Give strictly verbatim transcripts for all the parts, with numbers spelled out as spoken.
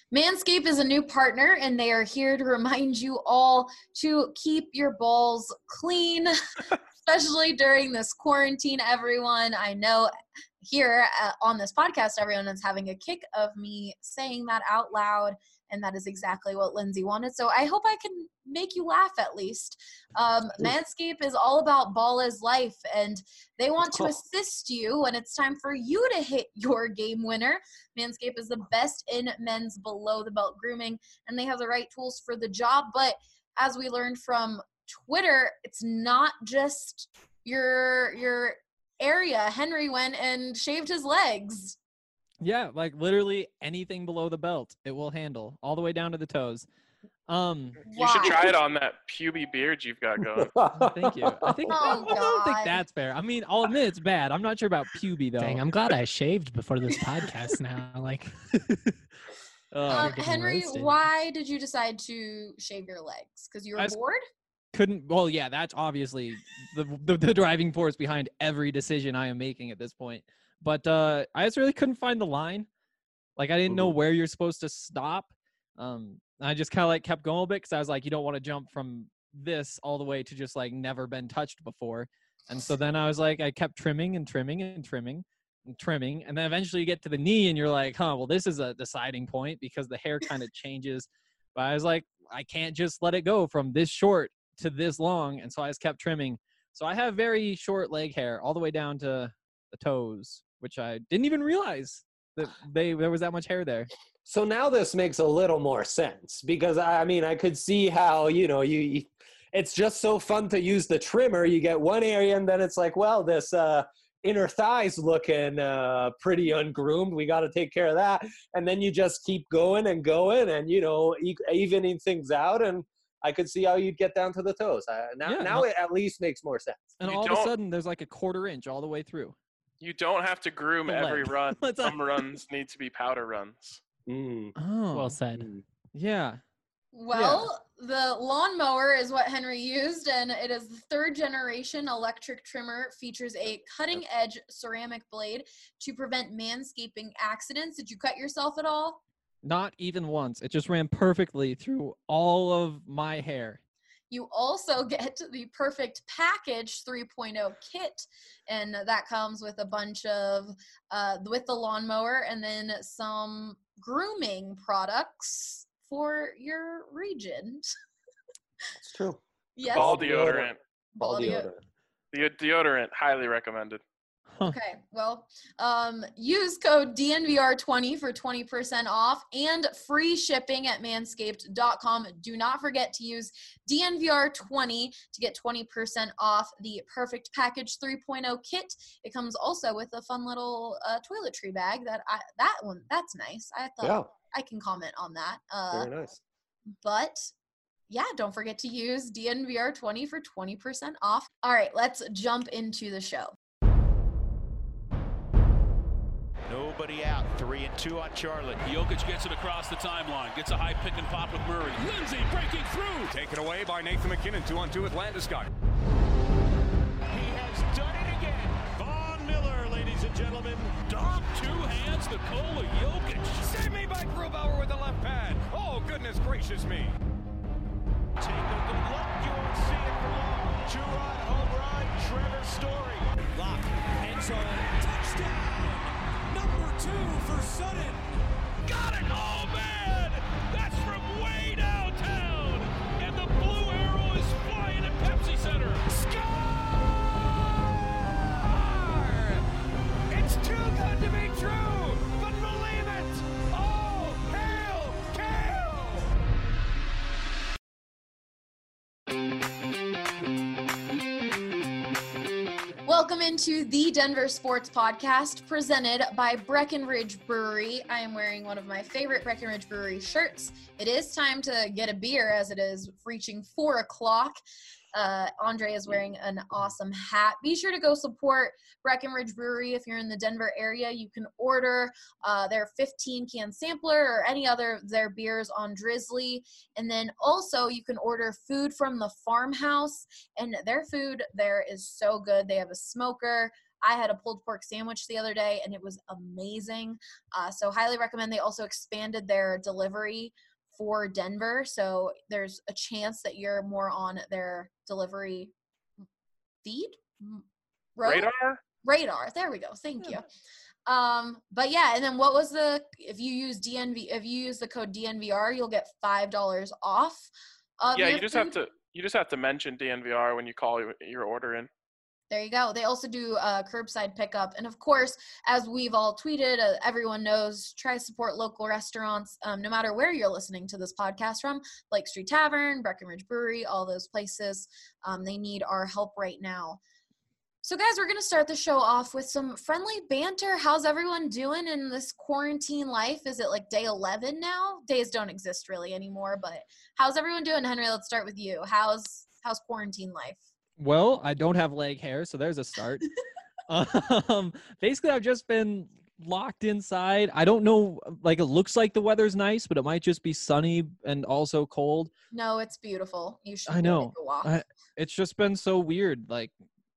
Manscaped is a new partner, and they are here to remind you all to keep your balls clean, especially during this quarantine, everyone. I know here uh, on this podcast, everyone is having a kick of me saying that out loud, and that is exactly what Lindsay wanted. So I hope I can make you laugh at least. Um, Manscaped is all about ball is life, and they want to assist you when it's time for you to hit your game winner. Manscaped is the best in men's below-the-belt grooming, and they have the right tools for the job. But as we learned from Twitter, it's not just your your area. Henry went and shaved his legs. Yeah, like literally anything below the belt, it will handle all the way down to the toes. Um, you should try it on that puby beard you've got going. Thank you. I think Oh, I don't think God. that's fair. I mean, I'll admit it's bad. I'm not sure about puby though. Dang, I'm glad I shaved before this podcast now. Like, Uh, Um, getting Henry, roasted. why did you decide to shave your legs? Because you were I s- bored? couldn't. Well, yeah, that's obviously the, the the driving force behind every decision I am making at this point. But uh, I just really couldn't find the line. Like I didn't know where you're supposed to stop. Um, I just kind of like kept going a little bit because I was like, you don't want to jump from this all the way to just like never been touched before. And so then I was like, I kept trimming and trimming and trimming and trimming. And then eventually you get to the knee and you're like, huh, well, this is a deciding point because the hair kind of changes. But I was like, I can't just let it go from this short to this long. And so I just kept trimming. So I have very short leg hair all the way down to the toes, which I didn't even realize that they there was that much hair there. So now this makes a little more sense because I mean I could see how you know you, you it's just so fun to use the trimmer. You get one area and then it's like, well, this uh, inner thigh's looking uh, pretty ungroomed. We got to take care of that, and then you just keep going and going and you know e- evening things out. And I could see how you'd get down to the toes. Uh, now, Yeah, now no- it at least makes more sense. And You all of a don't- sudden there's like a quarter inch all the way through. You don't have to groom The every leg. run. What's up? Some runs need to be powder runs. Mm. Oh, well said. Mm. yeah. Well, the lawnmower is what Henry used, and it is the third generation electric trimmer. Features a cutting edge ceramic blade to prevent manscaping accidents. Did you cut yourself at all? Not even once. It just ran perfectly through all of my hair. You also get the Perfect Package three point oh kit, and that comes with a bunch of, uh, with the lawnmower and then some grooming products for your region. It's true. Yes. Ball Ball deodorant. Ball Ball deo- deodorant. The deodorant, highly recommended. Okay, well, um, use code D N V R twenty for twenty percent off and free shipping at manscaped dot com. Do not forget to use D N V R twenty to get twenty percent off the Perfect Package three point oh kit. It comes also with a fun little uh, toiletry bag that I, that one, that's nice. I thought Yeah, I can comment on that. Uh, very nice. but yeah, don't forget to use D N V R twenty for twenty percent off. All right, let's jump into the show. Nobody out. Three and two on Charlotte. Jokic gets it across the timeline. Gets a high pick and pop with Murray. Lindsay breaking through. Taken away by Nathan McKinnon. Two on two with Landeskog. He has done it again. Von Miller, ladies and gentlemen. Dom, two hands, Nikola Jokic. Save me by Grubauer with the left pad. Oh, goodness gracious me. Take a good look. You won't see it for long. Two-run home run. Trevor Story. Lock. End zone. Touchdown. Number two for Sutton. Got it. Oh, man. That's from way downtown. And the blue arrow is flying at Pepsi Center. Score! It's too good to be true, but believe it. Oh, hail, Kale! Welcome into the Denver Sports Podcast presented by Breckenridge Brewery. I am wearing one of my favorite Breckenridge Brewery shirts. It is time to get a beer as it is reaching four o'clock. Uh, Andre is wearing an awesome hat. Be sure to go support Breckenridge Brewery if you're in the Denver area. You can order uh, their fifteen can sampler or any other of their beers on Drizzly. And then also you can order food from the farmhouse, and their food there is so good. They have a smoker, I had a pulled pork sandwich the other day, and it was amazing. Uh, so highly recommend. They also expanded their delivery for Denver, so there's a chance that you're more on their delivery feed. Road? Radar? Radar. There we go. Thank you. Um, but yeah, and then what was the, if you use D N V, if you use the code D N V R, you'll get five dollars off. Of Yeah, your you just food. have to you just have to mention D N V R when you call your- your order in. There you go. They also do uh, curbside pickup. And of course, as we've all tweeted, uh, everyone knows, try to support local restaurants, um, no matter where you're listening to this podcast from, Lake Street Tavern, Breckenridge Brewery, all those places. Um, they need our help right now. So guys, we're going to start the show off with some friendly banter. How's everyone doing in this quarantine life? Is it like day eleven now? Days don't exist really anymore, but how's everyone doing? Henry, let's start with you. How's how's quarantine life? Well, I don't have leg hair, so there's a start. um, basically, I've just been locked inside. I don't know, like it looks like the weather's nice, but it might just be sunny and also cold. No, it's beautiful. You should I go know. take a walk. I, it's just been so weird. Like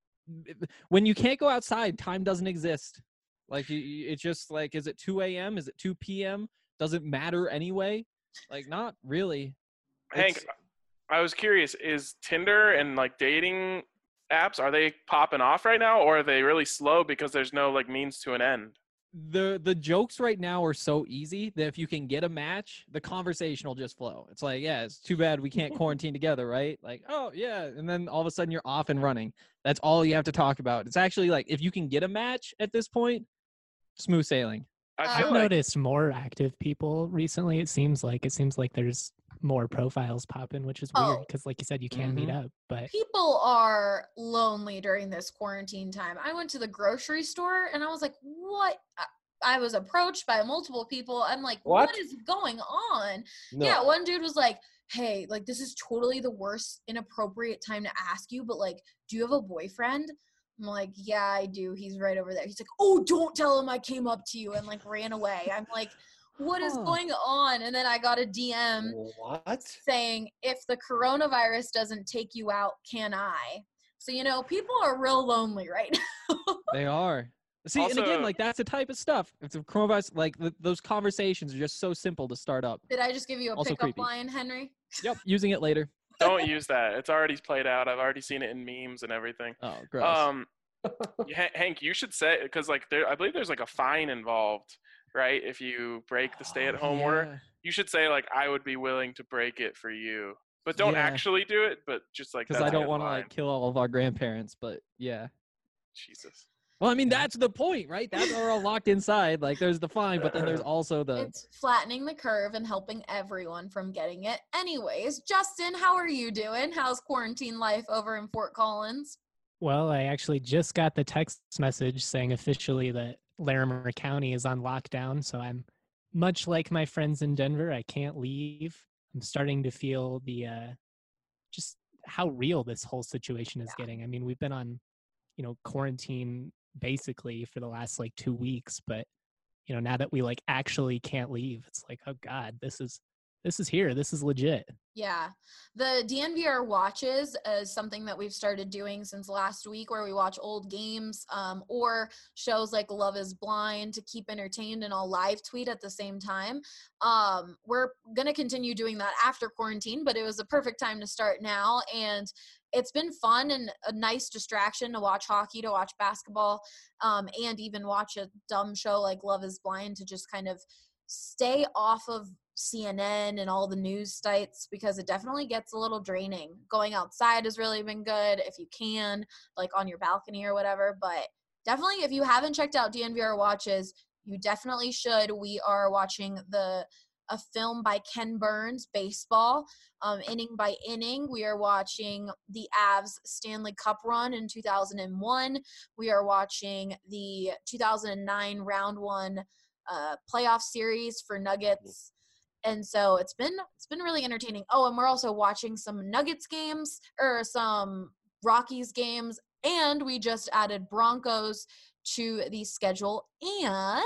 when you can't go outside, time doesn't exist. Like you, you- it's just like, is it two a.m.? Is it two p.m.? Does it matter anyway? Like not really. Hank, It's- I was curious, is Tinder and like dating apps, are they popping off right now, or are they really slow because there's no like means to an end? the the jokes right now are so easy that if you can get a match, the conversation will just flow. It's like, yeah, it's too bad we can't quarantine together, right? Like, oh yeah, and then all of a sudden you're off and running. That's all you have to talk about. It's actually like if you can get a match at this point, smooth sailing. I Uh, feel I've like noticed more active people recently. It seems like it seems like there's more profiles popping, which is weird Oh. because, like you said, you can meet up. But People are lonely during this quarantine time. I went to the grocery store and I was like, what? I- I was approached by multiple people. I'm like, what, What? is going on? No. Yeah, one dude was like, hey, like this is totally the worst inappropriate time to ask you, but like, do you have a boyfriend? I'm like, yeah, I do. He's right over there. He's like, oh, don't tell him I came up to you and like ran away. I'm like, what is Huh. going on? And then I got a D M What? saying, if the coronavirus doesn't take you out, can I? So, you know, people are real lonely right now. They are. See, and again, Also- like that's the type of stuff. If the coronavirus, like th- those conversations are just so simple to start up. Did I just give you a Also pickup creepy. line, Henry? Yep, using it later. don't use that. It's already played out. I've already seen it in memes and everything. Oh, gross. Um, Ha- Hank, you should say, because like there, I believe there's like a fine involved, right? If you break the stay-at-home order, Yeah. you should say like, I would be willing to break it for you, but don't Yeah. actually do it. But just like Because that's I a don't good want to line. like kill all of our grandparents, but yeah. Jesus. Well, I mean that's the point, right? That's we're all locked inside. Like there's the fine, but then there's also the It's flattening the curve and helping everyone from getting it. Anyways, Justin, how are you doing? How's quarantine life over in Fort Collins? well, I actually just got the text message saying officially that Larimer County is on lockdown. So I'm much like my friends in Denver. I can't leave. I'm starting to feel the uh, just how real this whole situation is Yeah. getting. I mean, we've been on, you know, quarantine basically for the last like two weeks, but you know, now that we like actually can't leave, it's like, oh God, this is this is here. This is legit. Yeah. The D N V R watches is something that we've started doing since last week, where we watch old games um, or shows like Love is Blind to keep entertained, and I'll live tweet at the same time. Um, we're going to continue doing that after quarantine, but it was a perfect time to start now. And it's been fun and a nice distraction to watch hockey, to watch basketball, um, and even watch a dumb show like Love is Blind to just kind of stay off of C N N and all the news sites, because it definitely gets a little draining. Going outside has really been good if you can, like on your balcony or whatever. But definitely, if you haven't checked out D N V R Watches, you definitely should. We are watching the a film by Ken Burns, baseball, um, inning by inning. We are watching the Avs Stanley Cup run in two thousand one. We are watching the two thousand nine round one uh, playoff series for Nuggets. And so it's been it's been really entertaining. Oh, and we're also watching some Nuggets games or some Rockies games, and we just added Broncos to the schedule, and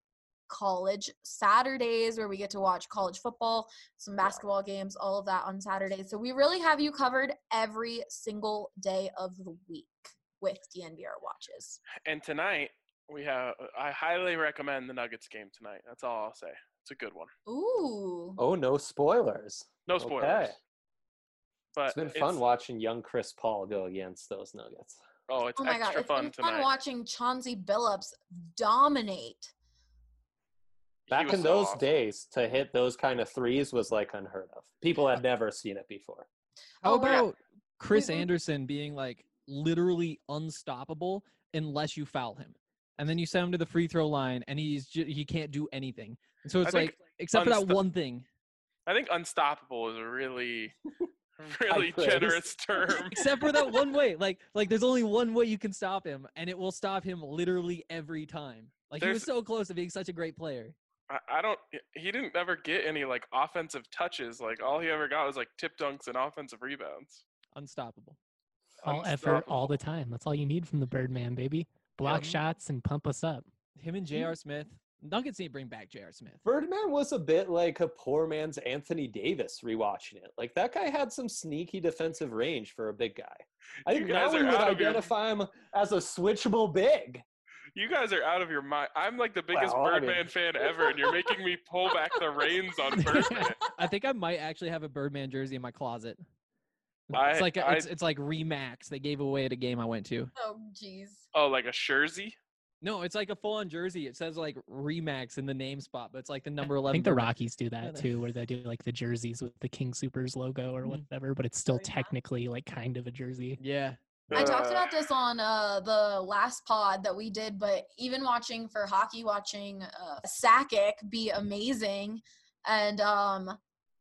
college Saturdays where we get to watch college football, some basketball games, all of that on Saturdays. So we really have you covered every single day of the week, with D N V R watches. And tonight we have. I highly recommend the Nuggets game tonight. That's all I'll say. It's a good one. Ooh. Oh, no spoilers. No spoilers. Okay. But It's been fun watching young Chris Paul go against those Nuggets. Oh, it's Oh my extra god, it's fun been tonight. fun watching Chauncey Billups dominate. He Back was in so those awesome. days, to hit those kind of threes was like unheard of. People had never seen it before. How Oh, yeah. about Chris We- we- Anderson being like literally unstoppable unless you foul him, and then you send him to the free throw line and he's ju- he can't do anything. And so it's think like except for that unsto- one thing. I think unstoppable is a really, really praise. generous term. Except for that one way, like like there's only one way you can stop him, and it will stop him literally every time. Like he was There's- so close to being such a great player. I, I don't. He didn't ever get any like offensive touches. Like all he ever got was like tip dunks and offensive rebounds. Unstoppable. All effort all the time. That's all you need from the Birdman, baby. Block Yeah. shots and pump us up. Him and J R. Smith. Nuggets need to bring back J R. Smith. Birdman was a bit like a poor man's Anthony Davis rewatching it. Like that guy had some sneaky defensive range for a big guy. I You think guys now we are would out of your- identify him as a switchable big. You guys are out of your mind. I'm like the biggest Well, I Birdman mean- fan ever, and you're making me pull back the reins on Birdman. I think I might actually have a Birdman jersey in my closet. I- It's like a, I- it's it's like Remax they gave away at a game I went to. Oh, jeez. Oh, like a Jersey? No, it's like a full-on jersey. It says like Remax in the name spot, but it's like the number I eleven. think the Birdman. Rockies do that too, where they do like the jerseys with the King Supers logo or Mhm. whatever, but it's still Oh, yeah? technically like kind of a jersey. Yeah. I talked Uh, about this on uh, the last pod that we did, but even watching for hockey, watching uh, Sakic be amazing, and um,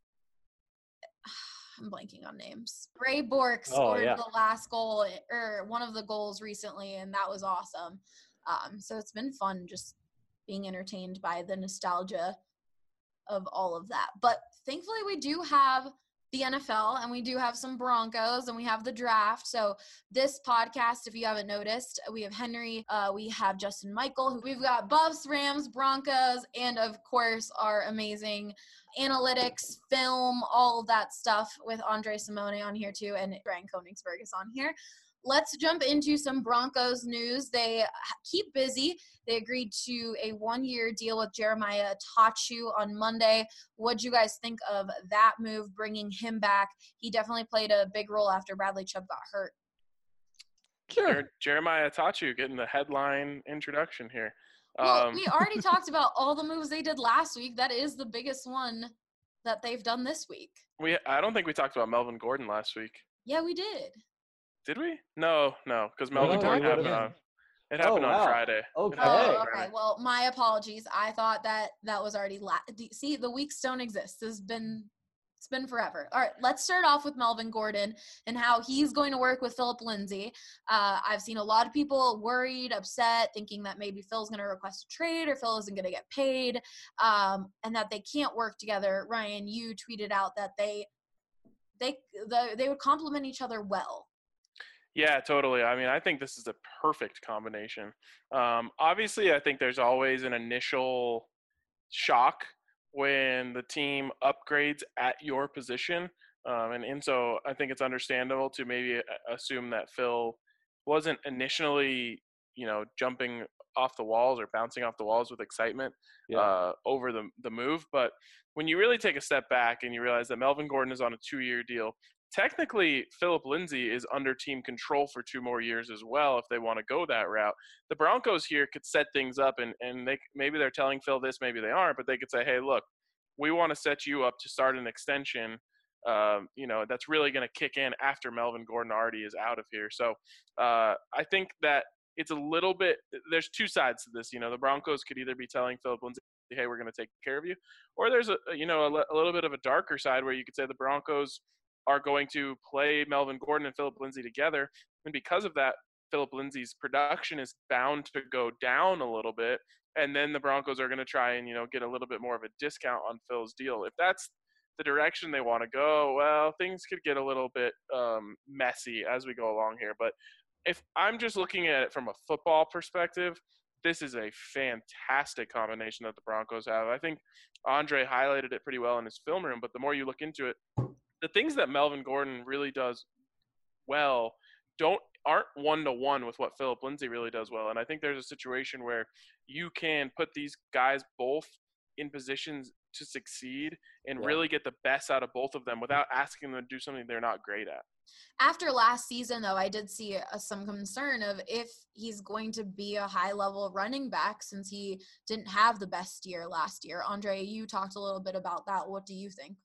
I'm blanking on names. Ray Bork Oh, scored yeah. the last goal or one of the goals recently, and that was awesome. Um, so it's been fun just being entertained by the nostalgia of all of that. But thankfully, we do have the N F L and we do have some Broncos and we have the draft. So this podcast, if you haven't noticed, we have Henry, uh, we have Justin Michael, we've got Buffs, Rams, Broncos, and of course our amazing analytics, film, all of that stuff with Andre Simone on here too, and Brian Koenigsberg is on here. Let's jump into some Broncos news. They keep busy. They agreed to a one-year deal with Jeremiah Tachu on Monday. What'd you guys think of that move, bringing him back? He definitely played a big role after Bradley Chubb got hurt. Jer- Jeremiah Tachu getting the headline introduction here. Well, Um, we already talked about all the moves they did last week. That is the biggest one that they've done this week. we I don't think we talked about Melvin Gordon last week. Yeah, we did. Did we? No, no, because No, Melvin we Gordon talked happened about on. it. It happened Oh, on wow. Friday. Okay. It happened Oh, on okay. Friday. Well, my apologies. I thought that that was already la- see, the weeks don't exist. This has been it's been forever. All right, let's start off with Melvin Gordon and how he's going to work with Philip Lindsay. Uh, I've seen a lot of people worried, upset, thinking that maybe Phil's going to request a trade or Phil isn't going to get paid, um, and that they can't work together. Ryan, you tweeted out that they they the, they would complement each other well. Yeah, totally. I mean, I think this is a perfect combination. Um, obviously, I think there's always an initial shock when the team upgrades at your position. Um, and, and so I think it's understandable to maybe assume that Phil wasn't initially, you know, jumping off the walls or bouncing off the walls with excitement Yeah. uh, over the, the move. But when you really take a step back and you realize that Melvin Gordon is on a two-year deal, technically Philip Lindsay is under team control for two more years as well if they want to go that route. The Broncos here could set things up, and, and they maybe they're telling Phil this, maybe they aren't, but they could say, hey, look, we want to set you up to start an extension, um, you know, that's really going to kick in after Melvin Gordon already is out of here. So uh, I think that it's a little bit – there's two sides to this. You know, the Broncos could either be telling Philip Lindsay, hey, we're going to take care of you, or there's, a you know, a, a little bit of a darker side where you could say the Broncos are going to play Melvin Gordon and Philip Lindsay together, and because of that, Philip Lindsay's production is bound to go down a little bit, and then the Broncos are going to try and, you know, get a little bit more of a discount on Phil's deal. If that's the direction they want to go, well, things could get a little bit um, messy as we go along here. But if I'm just looking at it from a football perspective, this is a fantastic combination that the Broncos have. I think Andre highlighted it pretty well in his film room, but the more you look into it, the things that Melvin Gordon really does well don't aren't one-to-one with what Philip Lindsay really does well. And I think there's a situation where you can put these guys both in positions to succeed and Yeah. really get the best out of both of them without asking them to do something they're not great at. After last season, though, I did see uh, some concern of if he's going to be a high-level running back since he didn't have the best year last year. Andre, you talked a little bit about that. What do you think?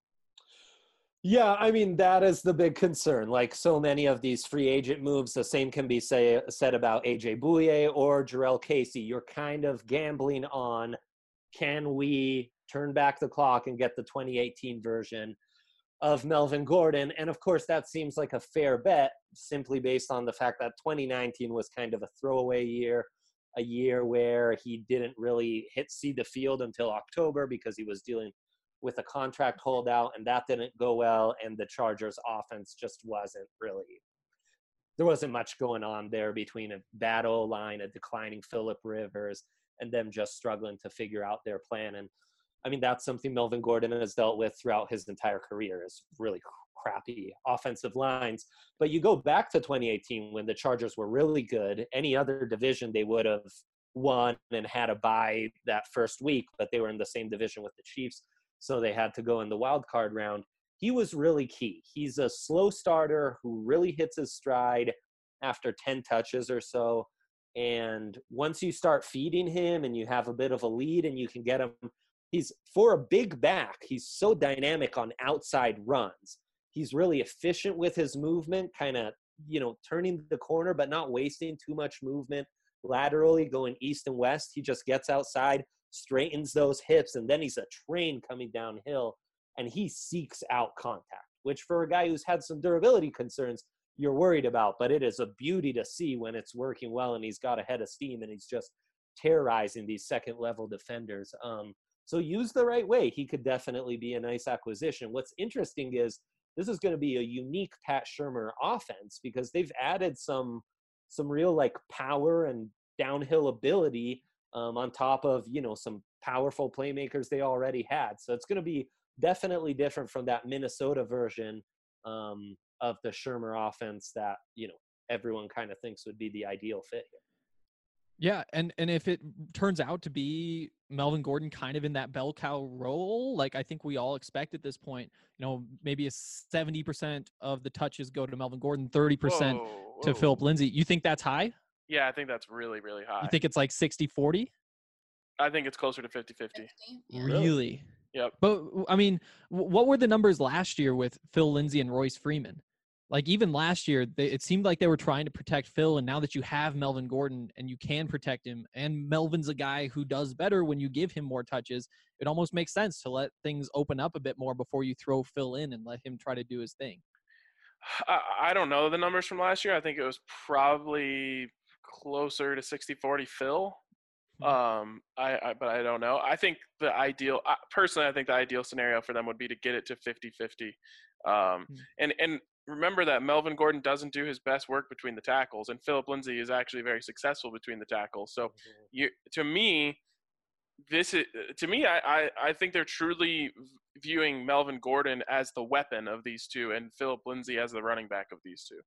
Yeah, I mean, that is the big concern. Like so many of these free agent moves, the same can be say, said about A J Bouye or Jarrell Casey. You're kind of gambling on, can we turn back the clock and get the twenty eighteen version of Melvin Gordon? And of course, that seems like a fair bet simply based on the fact that twenty nineteen was kind of a throwaway year, a year where he didn't really hit see the field until October because he was dealing with a contract holdout, and that didn't go well, and the Chargers offense just wasn't really, there wasn't much going on there between a bad O-line, a declining Phillip Rivers, and them just struggling to figure out their plan. And I mean, that's something Melvin Gordon has dealt with throughout his entire career, is really crappy offensive lines. But you go back to twenty eighteen when the Chargers were really good. Any other division they would have won and had a bye that first week, but they were in the same division with the Chiefs, so they had to go in the wild card round. He was really key. He's a slow starter who really hits his stride after ten touches or so. And once you start feeding him and you have a bit of a lead and you can get him, he's, for a big back, he's so dynamic on outside runs. He's really efficient with his movement, kind of, you know, turning the corner, but not wasting too much movement laterally, going east and west. He just gets outside, straightens those hips, and then he's a train coming downhill, and he seeks out contact, which for a guy who's had some durability concerns, you're worried about. But it is a beauty to see when it's working well and he's got a head of steam and he's just terrorizing these second level defenders. Um, so used the right way, he could definitely be a nice acquisition. What's interesting is this is going to be a unique Pat Shurmur offense because they've added some some real like power and downhill ability Um, on top of, you know, some powerful playmakers they already had. So it's going to be definitely different from that Minnesota version um, of the Shurmur offense that, you know, everyone kind of thinks would be the ideal fit here. Yeah, and, and if it turns out to be Melvin Gordon kind of in that bell cow role, like I think we all expect at this point, you know, maybe a seventy percent of the touches go to Melvin Gordon, thirty percent Whoa, to whoa. Philip Lindsay. You think that's high? Yeah, I think that's really, really high. You think it's like sixty forty? I think it's closer to fifty-fifty. Yeah. Really? Yep. But, I mean, w- what were the numbers last year with Phil Lindsay and Royce Freeman? Like, even last year, they, it seemed like they were trying to protect Phil, and now that you have Melvin Gordon and you can protect him, and Melvin's a guy who does better when you give him more touches, it almost makes sense to let things open up a bit more before you throw Phil in and let him try to do his thing. I, I don't know the numbers from last year. I think it was probably closer to sixty forty Phil. Um, I, I, but I don't know. I think the ideal, I, personally, I think the ideal scenario for them would be to get it to fifty-fifty. Um, Hmm. and, and remember that Melvin Gordon doesn't do his best work between the tackles, and Philip Lindsay is actually very successful between the tackles. So you, to me, this is, to me, I, I, I think they're truly viewing Melvin Gordon as the weapon of these two and Philip Lindsay as the running back of these two.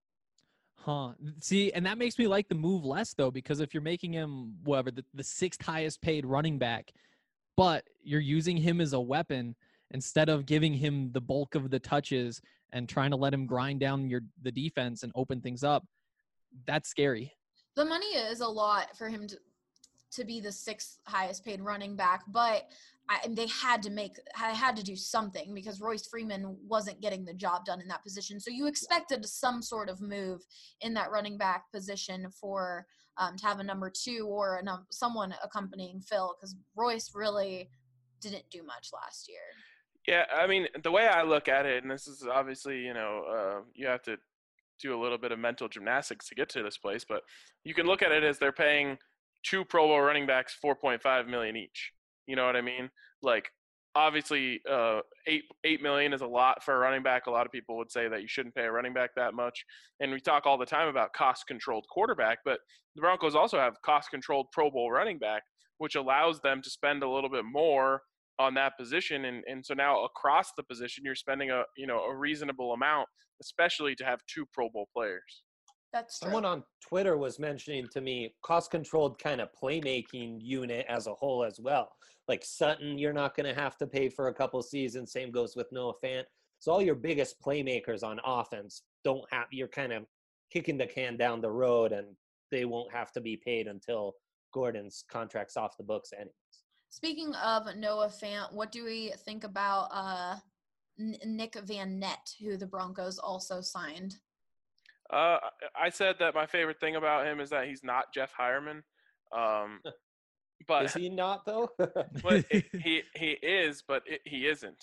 Huh. See, and that makes me like the move less, though, because if you're making him, whatever, the, the sixth highest paid running back, but you're using him as a weapon instead of giving him the bulk of the touches and trying to let him grind down your the defense and open things up, that's scary. The money is a lot for him to to be the sixth highest paid running back, but I, and they had to make, I had to do something because Royce Freeman wasn't getting the job done in that position. So you expected some sort of move in that running back position for um, to have a number two or a num- someone accompanying Phil, because Royce really didn't do much last year. Yeah, I mean, the way I look at it, and this is obviously, you know, uh, you have to do a little bit of mental gymnastics to get to this place, but you can look at it as they're paying two Pro Bowl running backs four point five million dollars each. You know what I mean? Like, obviously, uh, eight eight million dollars is a lot for a running back. A lot of people would say that you shouldn't pay a running back that much. And we talk all the time about cost-controlled quarterback, but the Broncos also have cost-controlled Pro Bowl running back, which allows them to spend a little bit more on that position. And, and so now across the position, you're spending a, you know, a reasonable amount, especially to have two Pro Bowl players. That's true. Someone on Twitter was mentioning to me cost-controlled kind of playmaking unit as a whole as well. Like Sutton, you're not going to have to pay for a couple seasons. Same goes with Noah Fant. So all your biggest playmakers on offense don't have, you're kind of kicking the can down the road, and they won't have to be paid until Gordon's contract's off the books anyways. Speaking of Noah Fant, what do we think about uh, N- Nick Van Nett, who the Broncos also signed? Uh, I said that my favorite thing about him is that he's not Jeff Hireman. Um, but Is he not, though? well, he, he he is, but it, he isn't.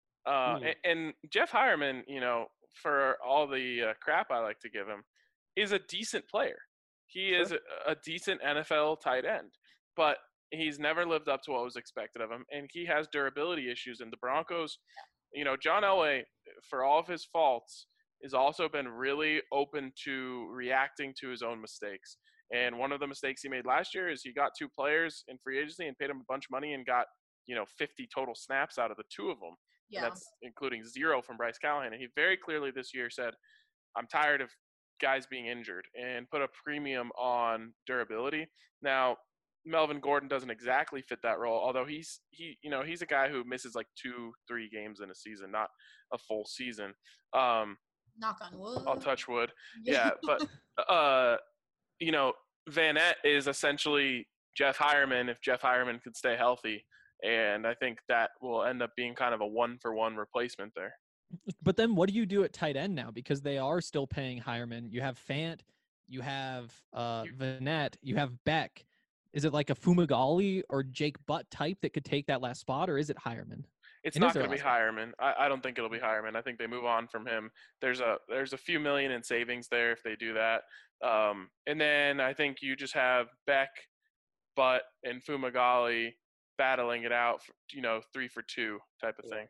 Uh, Hmm. and, and Jeff Hireman, you know, for all the uh, crap I like to give him, is a decent player. He Sure. is a, a decent N F L tight end, but he's never lived up to what was expected of him, and he has durability issues. And the Broncos, you know, John Elway, for all of his faults, has also been really open to reacting to his own mistakes. And one of the mistakes he made last year is he got two players in free agency and paid them a bunch of money and got, you know, fifty total snaps out of the two of them. Yeah. And that's including zero from Bryce Callahan. And he very clearly this year said, I'm tired of guys being injured, and put a premium on durability. Now, Melvin Gordon doesn't exactly fit that role, although he's he you know he's a guy who misses like two three games in a season, not a full season. Um, Knock on wood. I'll touch wood. Yeah, but uh, you know, Van Nett is essentially Jeff Hireman if Jeff Hireman could stay healthy, and I think that will end up being kind of a one for one replacement there. But then what do you do at tight end now? Because they are still paying Hireman. You have Fant, you have uh, Vanette, you have Beck. Is it like a Fumagalli or Jake Butt type that could take that last spot, or is it Hireman? It's It is not their going to be last Hireman. I, I don't think it'll be Hireman. I think they move on from him. There's a there's a few million in savings there if they do that. Um, and then I think you just have Beck, Butt, and Fumagalli battling it out, for, you know, three for two type of thing.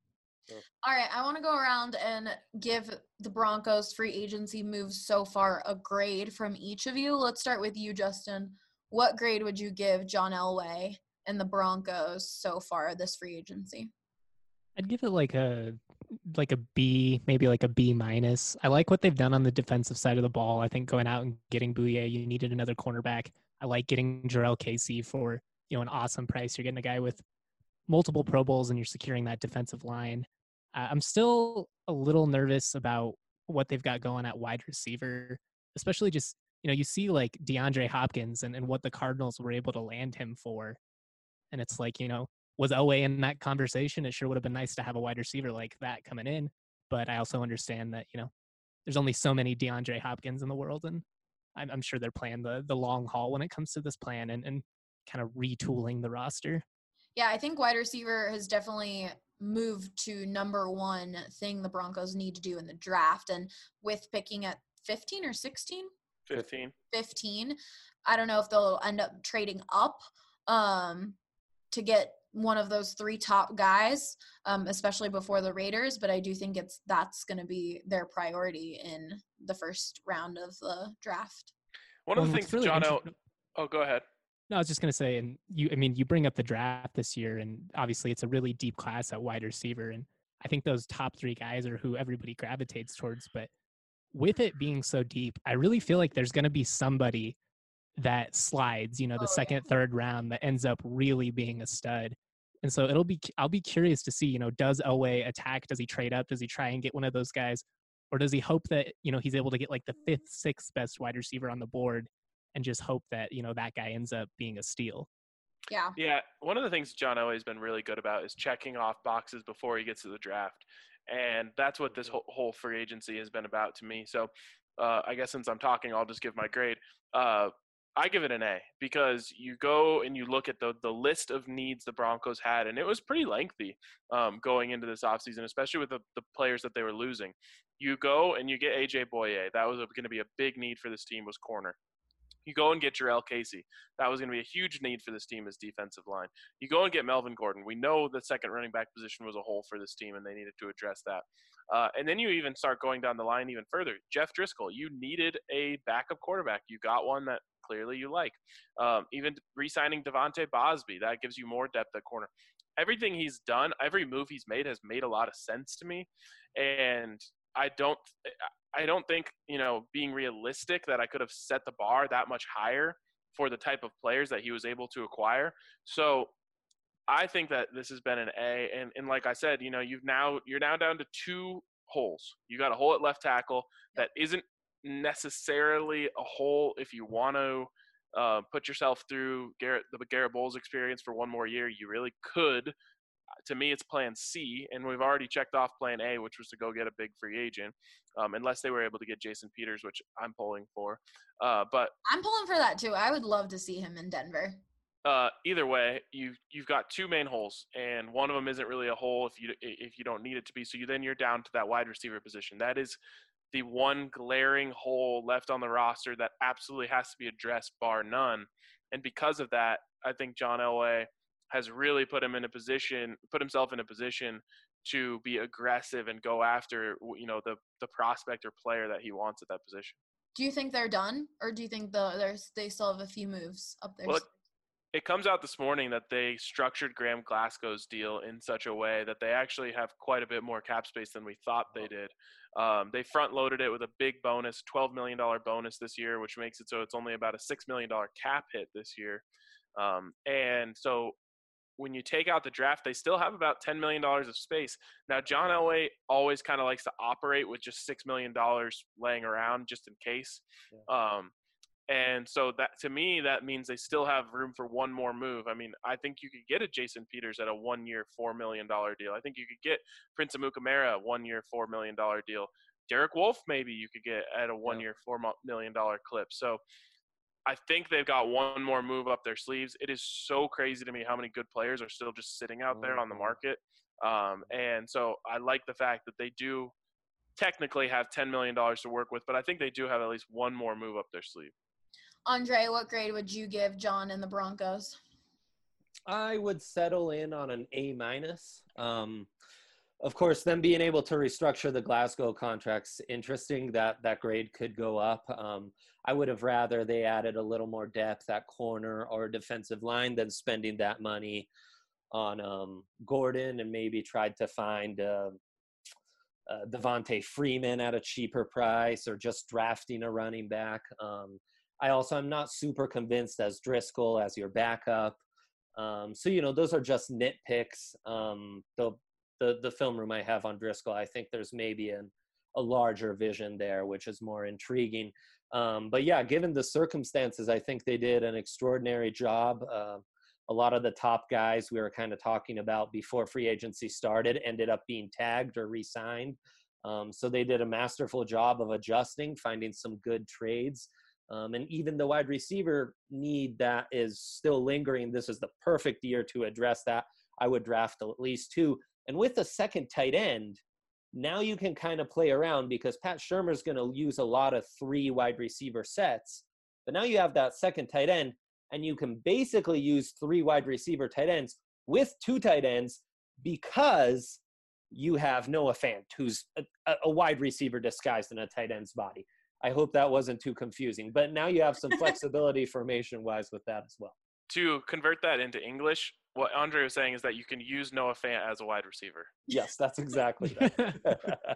All right, I want to go around and give the Broncos free agency moves so far a grade from each of you. Let's start with you, Justin. What grade would you give John Elway and the Broncos so far this free agency? I'd give it like a like a B, maybe like a B minus. I like what they've done on the defensive side of the ball. I think going out and getting Bouye, you needed another cornerback. I like getting Jarrell Casey for, you know, an awesome price. You're getting a guy with multiple Pro Bowls and you're securing that defensive line. Uh, I'm still a little nervous about what they've got going at wide receiver, especially just, you know, you see like DeAndre Hopkins and, and what the Cardinals were able to land him for. And it's like, you know, was Elway in that conversation? It sure would have been nice to have a wide receiver like that coming in. But I also understand that, you know, there's only so many DeAndre Hopkins in the world. And I'm, I'm sure they're playing the the long haul when it comes to this plan and, and kind of retooling the roster. Yeah, I think wide receiver has definitely moved to number one thing the Broncos need to do in the draft. And with picking at fifteen or sixteen? fifteen. fifteen. I don't know if they'll end up trading up um, to get one of those three top guys, um, especially before the Raiders. But I do think it's that's going to be their priority in the first round of the draft. One of Well, the what's things really John inter- El- Oh, go ahead. No, I was just going to say, and you, I mean, you bring up the draft this year, and obviously it's a really deep class at wide receiver. And I think those top three guys are who everybody gravitates towards. But with it being so deep, I really feel like there's going to be somebody that slides, you know, the Oh, second, third round that ends up really being a stud. And so it'll be, I'll be curious to see, you know, does Elway attack? Does he trade up? Does he try and get one of those guys? Or does he hope that, you know, he's able to get like the fifth, sixth best wide receiver on the board and just hope that, you know, that guy ends up being a steal? Yeah. Yeah, one of the things John Elway has been really good about is checking off boxes before he gets to the draft. And that's what this whole, whole free agency has been about to me. So uh, I guess since I'm talking, I'll just give my grade. Uh, I give it an A because you go and you look at the the list of needs the Broncos had, and it was pretty lengthy um, going into this offseason, especially with the, the players that they were losing. You go and you get A J Bouye. That was going to be a big need for this team was corner. You go and get Jarrell Casey. That was going to be a huge need for this team as defensive line. You go and get Melvin Gordon. We know the second running back position was a hole for this team, and they needed to address that. Uh, and then you even start going down the line even further. Jeff Driscoll, you needed a backup quarterback. You got one that clearly you like. Um, even re-signing Devontae Bosby, that gives you more depth at corner. Everything he's done, every move he's made has made a lot of sense to me. And I don't I don't think, you know, being realistic that I could have set the bar that much higher for the type of players that he was able to acquire. So I think that this has been an A. And, and like I said, you know, you've now you're now down to two holes. You got a hole at left tackle that isn't necessarily a hole if you want to uh, put yourself through Garrett, the Garrett Bowles experience for one more year. You really could. To me, it's plan C, and we've already checked off plan A, which was to go get a big free agent, um, unless they were able to get Jason Peters, which I'm pulling for. Uh, but I'm pulling for that too. I would love to see him in Denver. Uh, either way, you've you've got two main holes, and one of them isn't really a hole if you if you don't need it to be. So you then you're down to that wide receiver position. That is the one glaring hole left on the roster that absolutely has to be addressed, bar none. And because of that, I think John Elway has really put him in a position, put himself in a position to be aggressive and go after, you know, the the prospect or player that he wants at that position. Do you think they're done, or do you think the there's they still have a few moves up there? Well, it, it comes out this morning that they structured Graham Glasgow's deal in such a way that they actually have quite a bit more cap space than we thought they did. Um, they front-loaded it with a big bonus, twelve million dollars bonus this year, which makes it so it's only about a six million dollars cap hit this year. Um, and so when you take out the draft, they still have about ten million dollars of space. Now, John Elway always kind of likes to operate with just six million dollars laying around just in case. Yeah. Um, and so that, to me, that means they still have room for one more move. I mean, I think you could get a Jason Peters at a one-year, four million dollars deal. I think you could get Prince Amukamara a one-year, four million dollars deal. Derek Wolfe, maybe you could get at a one-year, four million dollars clip. So I think they've got one more move up their sleeves. It is so crazy to me how many good players are still just sitting out there on the market. Um, and so I like the fact that they do technically have ten million dollars to work with, but I think they do have at least one more move up their sleeve. Andre, what grade would you give John and the Broncos? I would settle in on an A minus. Um, of course, them being able to restructure the Glasgow contracts, interesting that that grade could go up. Um, I would have rather they added a little more depth at corner or defensive line than spending that money on um, Gordon and maybe tried to find uh, uh, Devontae Freeman at a cheaper price or just drafting a running back. Um, I also am not super convinced as Driscoll as your backup. Um, so, you know, those are just nitpicks. Um, the, the, the film room I have on Driscoll, I think there's maybe an, a larger vision there, which is more intriguing. Um, but yeah, given the circumstances, I think they did an extraordinary job. Uh, a lot of the top guys we were kind of talking about before free agency started ended up being tagged or re-signed. Um, so they did a masterful job of adjusting, finding some good trades. Um, and even the wide receiver need that is still lingering. This is the perfect year to address that. I would draft at least two. And with a second tight end, now you can kind of play around because Pat Shurmur's going to use a lot of three wide receiver sets. But now you have that second tight end, and you can basically use three wide receiver tight ends with two tight ends because you have Noah Fant, who's a, a wide receiver disguised in a tight end's body. I hope that wasn't too confusing. But now you have some flexibility formation-wise with that as well. To convert that into English, what Andre was saying is that you can use Noah Fant as a wide receiver. Yes, that's exactly that.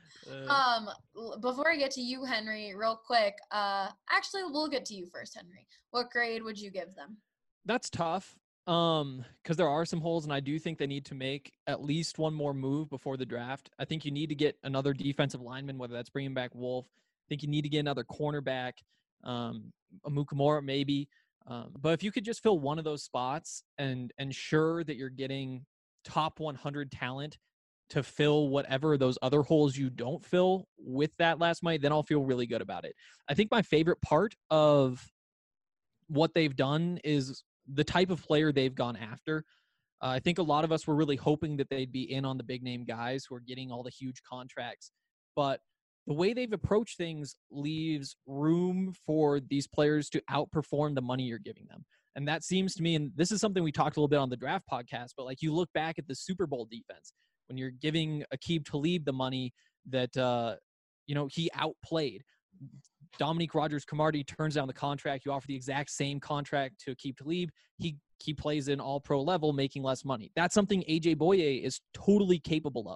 um, before I get to you, Henry, real quick, uh, actually, we'll get to you first, Henry. What grade would you give them? That's tough um, because there are some holes, and I do think they need to make at least one more move before the draft. I think you need to get another defensive lineman, whether that's bringing back Wolf. I think you need to get another cornerback, um, Amukamara maybe. Um, but if you could just fill one of those spots and ensure that you're getting top one hundred talent to fill whatever those other holes you don't fill with that last money, then I'll feel really good about it. I think my favorite part of what they've done is the type of player they've gone after. Uh, I think a lot of us were really hoping that they'd be in on the big name guys who are getting all the huge contracts, but the way they've approached things leaves room for these players to outperform the money you're giving them. And that seems to me, and this is something we talked a little bit on the draft podcast, but like you look back at the Super Bowl defense, when you're giving Aqib Talib the money that, uh, you know, he outplayed. Dominique Rodgers-Cromartie turns down the contract. You offer the exact same contract to Aqib Talib. He, he plays in all pro level, making less money. That's something A J Boye is totally capable of.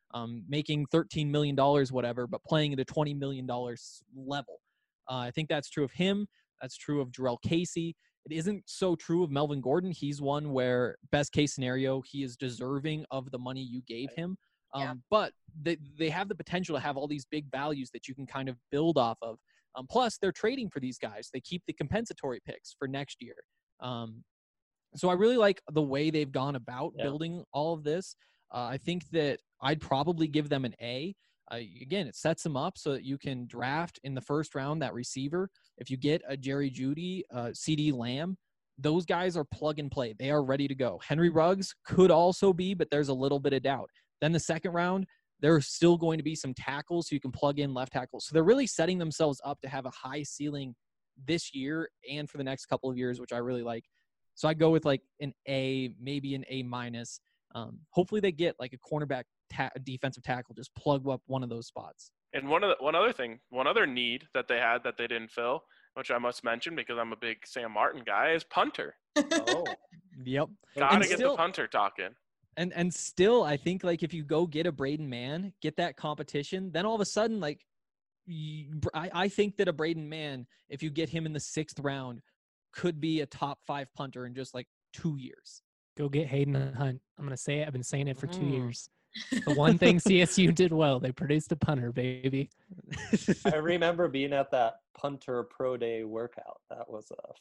um, making thirteen million dollars, whatever, but playing at a twenty million dollars level. Uh, I think that's true of him. That's true of Jarrell Casey. It isn't so true of Melvin Gordon. He's one where best case scenario, he is deserving of the money you gave him. Um, Yeah. But they, they have the potential to have all these big values that you can kind of build off of. Um, plus, they're trading for these guys. They keep the compensatory picks for next year. Um, so I really like the way they've gone about Yeah. building all of this. Uh, I think that I'd probably give them an A. Uh, again, it sets them up so that you can draft in the first round that receiver. If you get a Jerry Jeudy, uh, C D Lamb, those guys are plug and play. They are ready to go. Henry Ruggs could also be, but there's a little bit of doubt. Then the second round, there's still going to be some tackles so you can plug in left tackles. So they're really setting themselves up to have a high ceiling this year and for the next couple of years, which I really like. So I go with like an A, maybe an A minus. Um, hopefully they get like a cornerback ta- defensive tackle, just plug up one of those spots. And one of the, one other thing, one other need that they had that they didn't fill, which I must mention because I'm a big Sam Martin guy, is punter. Oh, Yep. Gotta And get still- the punter talking. And and still, I think like if you go get a Braden Mann, get that competition, then all of a sudden, like you, I, I think that a Braden Mann, if you get him in the sixth round, could be a top five punter in just like two years. Go get Hayden Hunt. I'm going to say it. I've been saying it for two Mm. years. The one thing C S U did well, they produced a punter, baby. I remember being at that punter pro day workout. That was uh,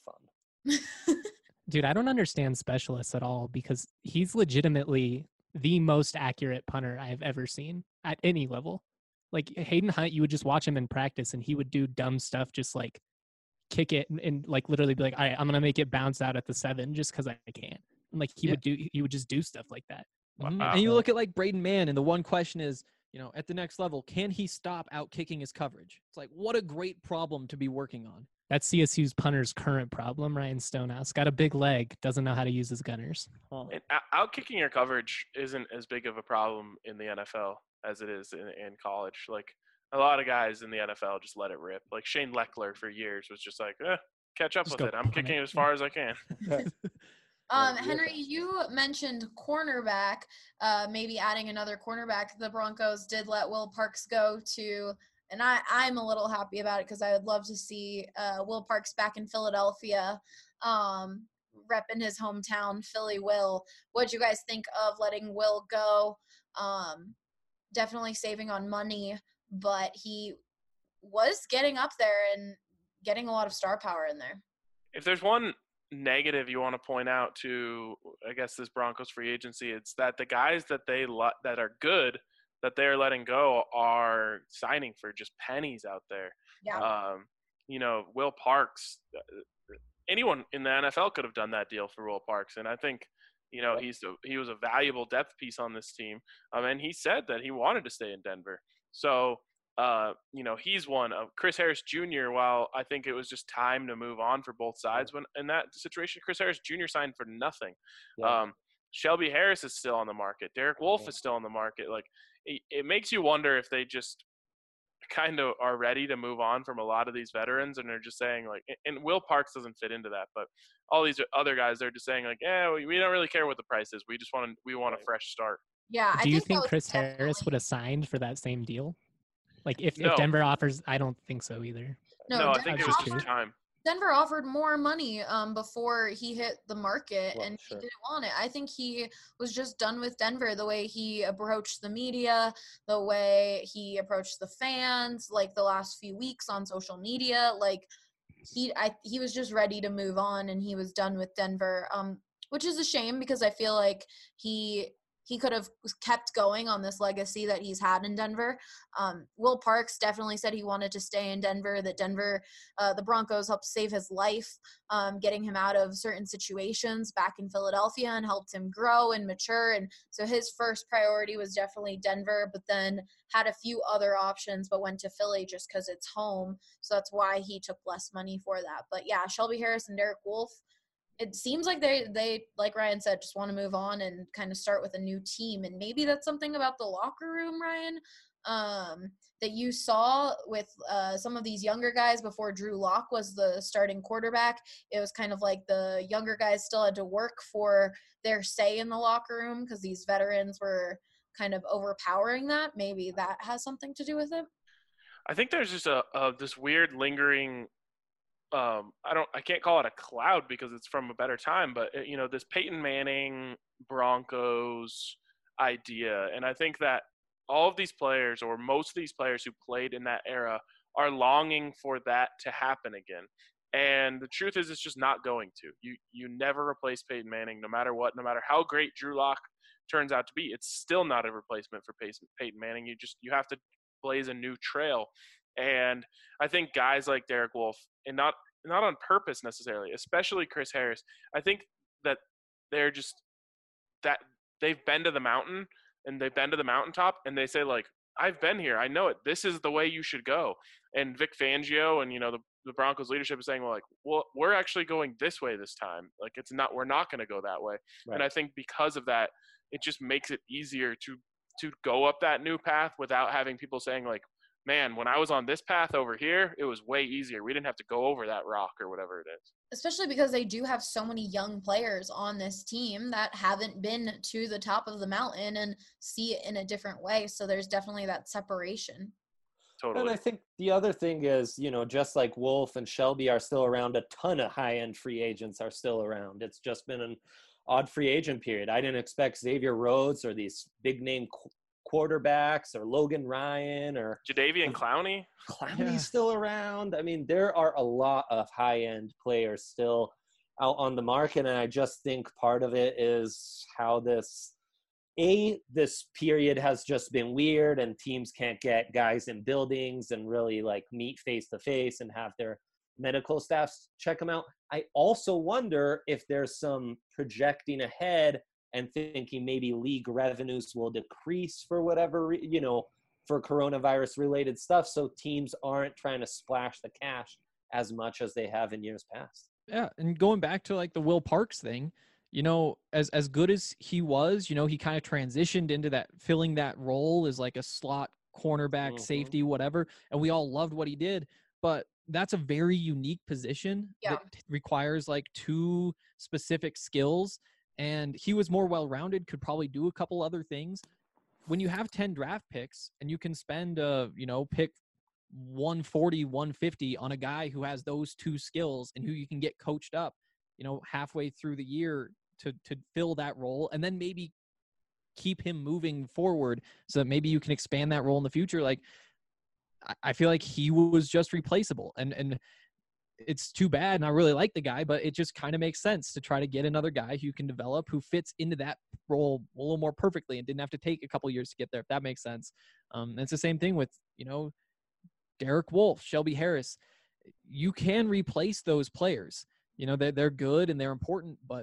fun. Dude, I don't understand specialists at all because he's legitimately the most accurate punter I've ever seen at any level. Like Hayden Hunt, you would just watch him in practice and he would do dumb stuff, just like kick it and, and like literally be like, all right, I'm going to make it bounce out at the seven just because I can. And like he Yeah. would do, he would just do stuff like that. Mhm. Wow. And you look at like Braden Mann, and the one question is, you know, at the next level, can he stop out kicking his coverage? It's like, what a great problem to be working on. That's C S U's punter's current problem. Ryan Stonehouse got a big leg, doesn't know how to use his gunners. Huh. And out kicking your coverage isn't as big of a problem in the N F L as it is in, in college. Like a lot of guys in the N F L just let it rip. Like Shane Leckler for years was just like, eh, catch up Just with go it. I'm punt kicking it. it as far as I can. Um, Yeah, Henry, you mentioned cornerback, uh, maybe adding another cornerback. The Broncos did let Will Parks go to, and I, I'm a little happy about it because I would love to see uh, Will Parks back in Philadelphia, um, repping his hometown, Philly Will. What'd you guys think of letting Will go? Um, definitely saving on money, but he was getting up there and getting a lot of star power in there. If there's one negative you want to point out to, I guess, this Broncos free agency, it's that the guys that they let, that are good that they're letting go are signing for just pennies out there. Yeah. Um, you know, Will Parks, anyone in the N F L could have done that deal for Will Parks, and I think, you know, he's a, he was a valuable depth piece on this team, um, and he said that he wanted to stay in Denver. So. Uh, you know, he's one of Chris Harris Junior While I think it was just time to move on for both sides when in that situation, Chris Harris Junior signed for nothing. Yeah. Um, Shelby Harris is still on the market. Derek Wolfe Yeah. is still on the market. Like it, it makes you wonder if they just kind of are ready to move on from a lot of these veterans, and they're just saying like, and Will Parks doesn't fit into that, but all these other guys, they're just saying like, yeah, we, we don't really care what the price is. We just want to, we want a Right. fresh start. Yeah. I Do you think, that think was Chris Harris definitely- would have signed for that same deal? Like if, No. if Denver offers, I don't think so either. No, No, I Denver think it That's was just just offered, time. Denver offered more money um, before he hit the market, Well, and sure. he didn't want it. I think he was just done with Denver, the way he approached the media, the way he approached the fans, like the last few weeks on social media. Like he, I, he was just ready to move on, and he was done with Denver, um, which is a shame because I feel like he he could have kept going on this legacy that he's had in Denver. Um, Will Parks definitely said he wanted to stay in Denver, that Denver, uh, the Broncos helped save his life, um, getting him out of certain situations back in Philadelphia and helped him grow and mature. And so his first priority was definitely Denver, but then had a few other options, but went to Philly just because it's home. So that's why he took less money for that. But yeah, Shelby Harris and Derek Wolfe, it seems like they, they, like Ryan said, just want to move on and kind of start with a new team. And maybe that's something about the locker room, Ryan, um, that you saw with uh, some of these younger guys before Drew Lock was the starting quarterback. It was kind of like the younger guys still had to work for their say in the locker room because these veterans were kind of overpowering that. Maybe that has something to do with it. I think there's just a, a this weird lingering um I don't I can't call it a cloud because it's from a better time, but you know, this Peyton Manning Broncos idea. And I think that all of these players, or most of these players who played in that era, are longing for that to happen again. And the truth is, it's just not going to. You you never replace Peyton Manning, no matter what, no matter how great Drew Lock turns out to be. It's still not a replacement for Peyton Manning. You just you have to blaze a new trail. And I think guys like Derek Wolfe, and not not on purpose necessarily, especially Chris Harris, I think that they're just that they've been to the mountain and they've been to the mountaintop, and they say, like, I've been here. I know it. This is the way you should go. And Vic Fangio and, you know, the, the Broncos leadership is saying, well, like, well, we're actually going this way this time. Like, it's not, we're not going to go that way. Right. And I think because of that, it just makes it easier to, to go up that new path without having people saying, like, man, when I was on this path over here, it was way easier. We didn't have to go over that rock or whatever it is. Especially because they do have so many young players on this team that haven't been to the top of the mountain and see it in a different way. So there's definitely that separation. Totally. And I think the other thing is, you know, just like Wolf and Shelby are still around, a ton of high-end free agents are still around. It's just been an odd free agent period. I didn't expect Xavier Rhodes or these big-name qu- quarterbacks or Logan Ryan or Jadeveon Clowney. Clowney's Yeah. still around. I mean, there are a lot of high-end players still out on the market, and I just think part of it is how this A, this period has just been weird, and teams can't get guys in buildings and really like meet face-to-face and have their medical staffs check them out. I also wonder if there's some projecting ahead and thinking maybe league revenues will decrease for whatever, re- you know, for coronavirus related stuff. So teams aren't trying to splash the cash as much as they have in years past. Yeah. And going back to like the Will Parks thing, you know, as, as good as he was, you know, he kind of transitioned into that, filling that role as like a slot cornerback, Mhm. safety, whatever. And we all loved what he did, but that's a very unique position Yeah. that requires like two specific skills. And he was more well-rounded, could probably do a couple other things. When you have ten draft picks and you can spend, uh, you know, pick one forty, one fifty on a guy who has those two skills and who you can get coached up, you know, halfway through the year to to fill that role, and then maybe keep him moving forward so that maybe you can expand that role in the future. Like, I, I feel like he was just replaceable. And, and, it's too bad, and I really like the guy, but it just kind of makes sense to try to get another guy who can develop, who fits into that role a little more perfectly and didn't have to take a couple years to get there, if that makes sense. Um, and it's the same thing with, you know, Derek Wolfe, Shelby Harris. You can replace those players. You know, they're, they're good and they're important, but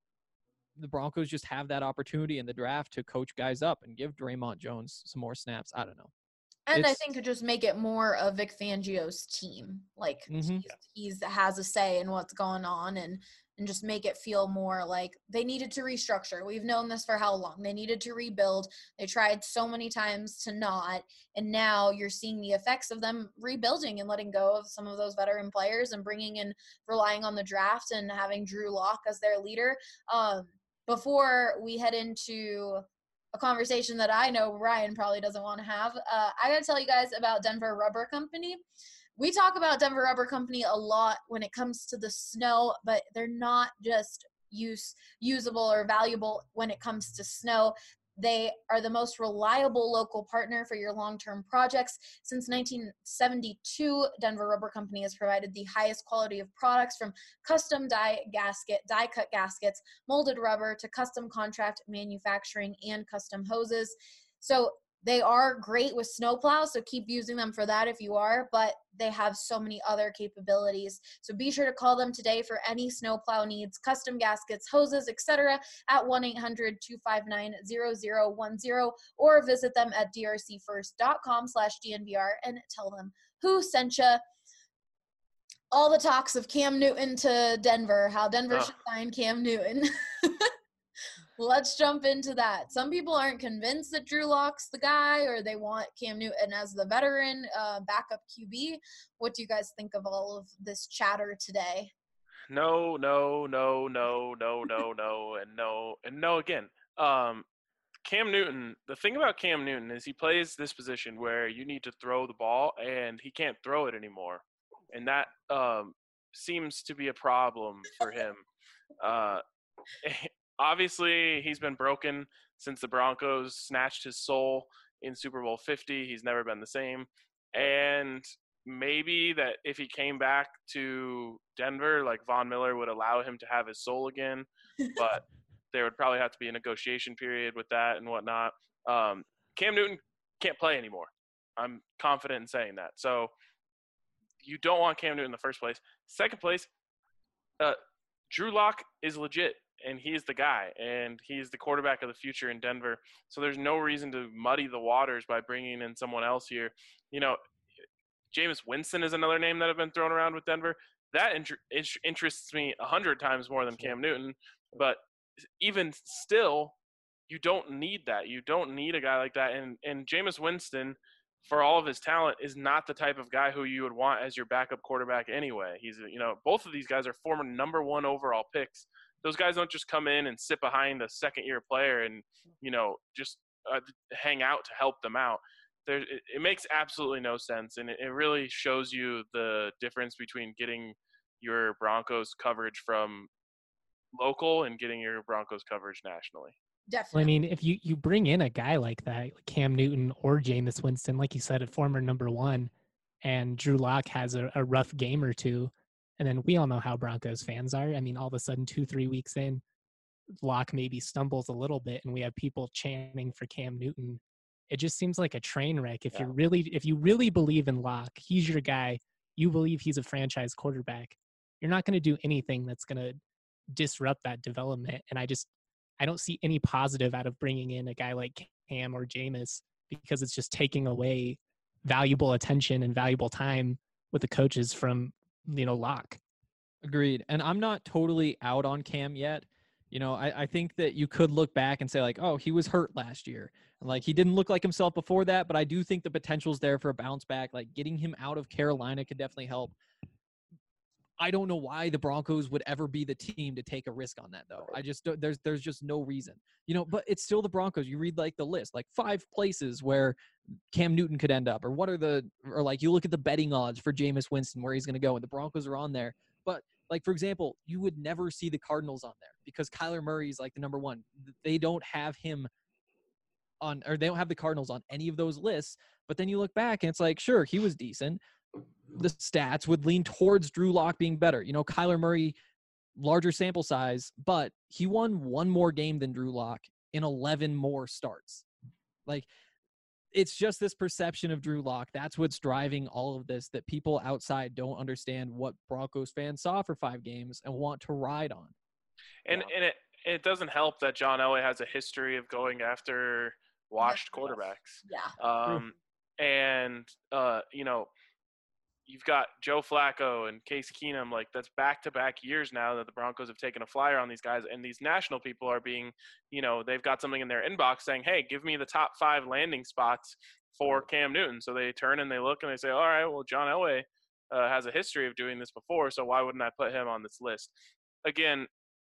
the Broncos just have that opportunity in the draft to coach guys up and give Draymond Jones some more snaps. I don't know. And I It's- think it just make it more of Vic Fangio's team. Like Mhm. he's, he's has a say in what's going on, and and just make it feel more like they needed to restructure. We've known this for how long? They needed to rebuild. They tried so many times to not, and now you're seeing the effects of them rebuilding and letting go of some of those veteran players and bringing in, relying on the draft and having Drew Lock as their leader. Um, before we head into a conversation that I know Ryan probably doesn't want to have, uh, I got to tell you guys about Denver Rubber Company. We talk about Denver Rubber Company a lot when it comes to the snow, but they're not just use usable or valuable when it comes to snow. They are the most reliable local partner for your long-term projects. Since nineteen seventy-two, Denver Rubber Company has provided the highest quality of products, from custom die gasket, die-cut gaskets, molded rubber, to custom contract manufacturing and custom hoses. So they are great with snowplows, so keep using them for that if you are, but they have so many other capabilities. So be sure to call them today for any snowplow needs, custom gaskets, hoses, et cetera at one eight hundred, two five nine, zero zero one zero, or visit them at drcfirst.com slash DNVR and tell them who sent you. All the talks of Cam Newton to Denver, how Denver Oh. should sign Cam Newton. Let's jump into that. Some people aren't convinced that Drew Lock's the guy, or they want Cam Newton as the veteran uh, backup Q B. What do you guys think of all of this chatter today? No, no, no, no, no, no, no, and no, and no again. Um, Cam Newton, the thing about Cam Newton is he plays this position where you need to throw the ball and he can't throw it anymore. And that um, seems to be a problem for him. Uh, obviously, he's been broken since the Broncos snatched his soul in Super Bowl fifty. He's never been the same. And maybe that if he came back to Denver, like Von Miller would allow him to have his soul again. But there would probably have to be a negotiation period with that and whatnot. Um, Cam Newton can't play anymore. I'm confident in saying that. So you don't want Cam Newton in the first place. Second place, uh, Drew Lock is legit, and he's the guy, and he's the quarterback of the future in Denver. So there's no reason to muddy the waters by bringing in someone else here. You know, Jameis Winston is another name that have been thrown around with Denver. That inter- interests me a hundred times more than Cam Newton. But even still, you don't need that. You don't need a guy like that. And and Jameis Winston, for all of his talent, is not the type of guy who you would want as your backup quarterback anyway. He's, you know, both of these guys are former number one overall picks. Those guys don't just come in and sit behind a second-year player and, you know, just uh, hang out to help them out. There, it, it makes absolutely no sense, and it, it really shows you the difference between getting your Broncos coverage from local and getting your Broncos coverage nationally. Definitely. Well, I mean, if you, you bring in a guy like that, like Cam Newton or Jameis Winston, like you said, a former number one, and Drew Lock has a, a rough game or two, and then we all know how Broncos fans are. I mean, all of a sudden, two, three weeks in, Lock maybe stumbles a little bit, and we have people chanting for Cam Newton. It just seems like a train wreck. If Yeah. you really, if you really believe in Lock, he's your guy. You believe he's a franchise quarterback. You're not going to do anything that's going to disrupt that development. And I just, I don't see any positive out of bringing in a guy like Cam or Jameis, because it's just taking away valuable attention and valuable time with the coaches from, you know, Lock. Agreed. And I'm not totally out on Cam yet. You know, I, I think that you could look back and say, like, oh, he was hurt last year. And, like, he didn't look like himself before that, but I do think the potential's there for a bounce back. Like, getting him out of Carolina could definitely help. I don't know why the Broncos would ever be the team to take a risk on that, though. I just don't, there's there's just no reason, you know. But it's still the Broncos. You read like the list, like five places where Cam Newton could end up, or what are the, or like you look at the betting odds for Jameis Winston where he's going to go, and the Broncos are on there. But like for example, you would never see the Cardinals on there because Kyler Murray is like the number one. They don't have him on, or they don't have the Cardinals on any of those lists. But then you look back and it's like, sure, he was decent. The stats would lean towards Drew Lock being better. You know, Kyler Murray, larger sample size, but he won one more game than Drew Lock in eleven more starts. Like, it's just this perception of Drew Lock. That's what's driving all of this, that people outside don't understand what Broncos fans saw for five games and want to ride on. And Yeah. and it it doesn't help that John Elway has a history of going after washed Yes. quarterbacks. Yeah. Um, and uh, you know, you've got Joe Flacco and Case Keenum. Like, that's back-to-back years now that the Broncos have taken a flyer on these guys, and these national people are being, you know, they've got something in their inbox saying, hey, give me the top five landing spots for Cam Newton. So they turn and they look and they say, all right, well, John Elway uh, has a history of doing this before, so why wouldn't I put him on this list? Again,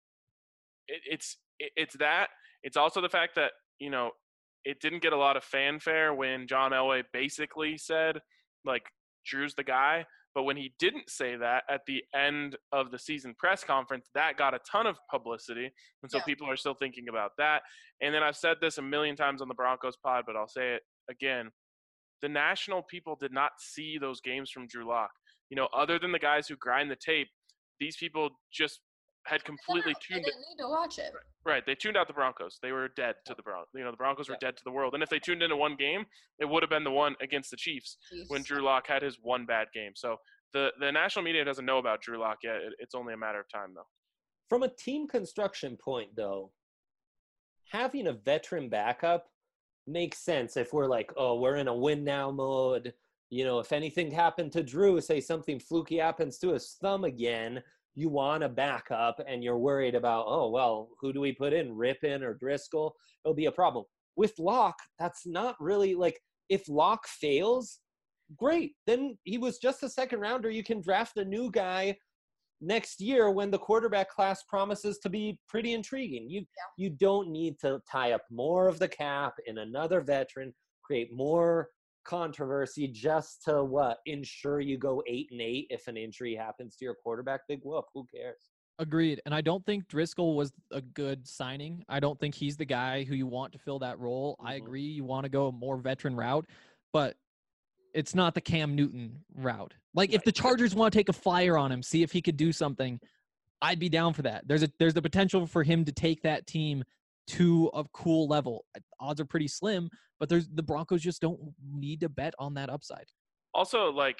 it, it's it, it's that. It's also the fact that, you know, it didn't get a lot of fanfare when John Elway basically said, like, Drew's the guy. But when he didn't say that at the end of the season press conference, that got a ton of publicity. And so Yeah. people are still thinking about that. And then I've said this a million times on the Broncos pod, but I'll say it again. The national people did not see those games from Drew Lock. You know, other than the guys who grind the tape, these people just had completely They tuned it. didn't need to watch it. Right. They tuned out the Broncos. They were dead to the Broncos. You know, the Broncos were Yeah. dead to the world. And if they tuned into one game, it would have been the one against the Chiefs Chiefs. when Drew Lock had his one bad game. So the, the national media doesn't know about Drew Lock yet. It, it's only a matter of time, though. From a team construction point, though, having a veteran backup makes sense if we're like, oh, we're in a win now mode. You know, if anything happened to Drew, say something fluky happens to his thumb again, you want a backup and you're worried about, oh, well, who do we put in, Rippon or Driscoll? It'll be a problem. With Locke, that's not really like, if Locke fails, great. Then he was just a second rounder. You can draft a new guy next year when the quarterback class promises to be pretty intriguing. You Yeah. you don't need to tie up more of the cap in another veteran, create more controversy just to what ensure you go eight and eight if an injury happens to your quarterback. Big whoop. Who cares? Agreed. And I don't think Driscoll was a good signing. I don't think he's the guy who you want to fill that role. I Mhm. agree. You want to go a more veteran route, but it's not the Cam Newton route. Like if the Chargers want to take a flyer on him, see if he could do something, I'd be down for that. There's a there's the potential for him to take that team to a cool level. Odds are pretty slim, but there's the Broncos just don't need to bet on that upside. Also, like,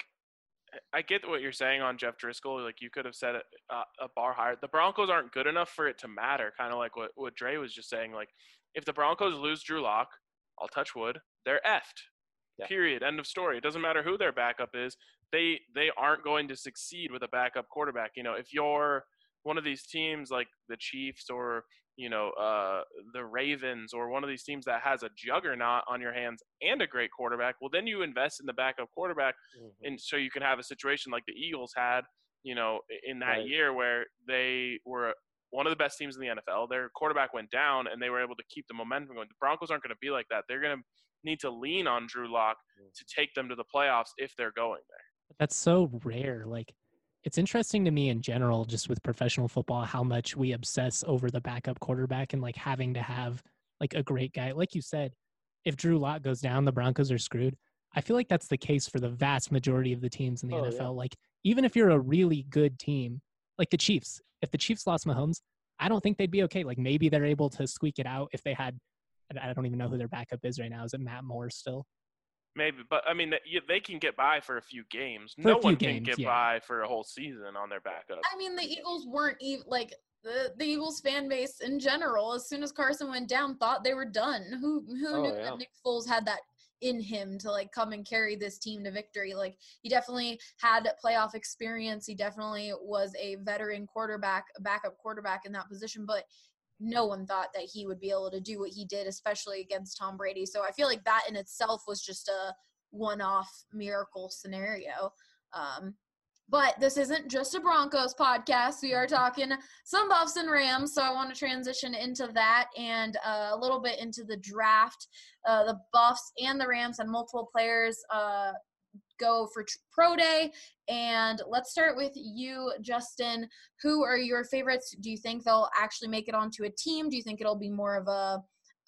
I get what you're saying on Jeff Driscoll. Like, you could have set a, a bar higher. The Broncos aren't good enough for it to matter, kind of like what, what Dre was just saying. Like, if the Broncos lose Drew Lock, I'll touch wood, they're effed. Yeah. Period. End of story. It doesn't matter who their backup is. They they aren't going to succeed with a backup quarterback. You know, if you're one of these teams like the Chiefs or, you know, uh, the Ravens or one of these teams that has a juggernaut on your hands and a great quarterback, well, then you invest in the backup quarterback, Mhm. and so you can have a situation like the Eagles had, you know, in that Right. year where they were one of the best teams in the N F L. Their quarterback went down, and they were able to keep the momentum going. The Broncos aren't going to be like that. They're going to need to lean on Drew Lock to take them to the playoffs if they're going there. That's so rare. Like, it's interesting to me in general, just with professional football, how much we obsess over the backup quarterback and like having to have like a great guy. Like you said, if Drew Lock goes down, the Broncos are screwed. I feel like that's the case for the vast majority of the teams in the Oh, N F L. yeah. Like, even if you're a really good team, like the Chiefs, if the Chiefs lost Mahomes, I don't think they'd be okay. Like, maybe they're able to squeak it out if they had, I don't even know who their backup is right now. Is it Matt Moore still? Maybe, but I mean, you- they can get by for a few games. For a no few one games, can get yeah. by for a whole season on their backup. I mean, the Eagles weren't even like the, the Eagles fan base in general. As soon as Carson went down, thought they were done. Who who Oh, knew yeah. that Nick Foles had that in him to like come and carry this team to victory? Like, he definitely had playoff experience. He definitely was a veteran quarterback, a backup quarterback in that position, but no one thought that he would be able to do what he did, especially against Tom Brady. So I feel like that in itself was just a one-off miracle scenario. Um, but this isn't just a Broncos podcast. We are talking some Buffs and Rams, so I want to transition into that and uh, a little bit into the draft. Uh, the Buffs and the Rams had multiple players uh, go for tr- pro day, and let's start with you, Justin. Who are your favorites? Do you think they'll actually make it onto a team? Do you think it'll be more of a,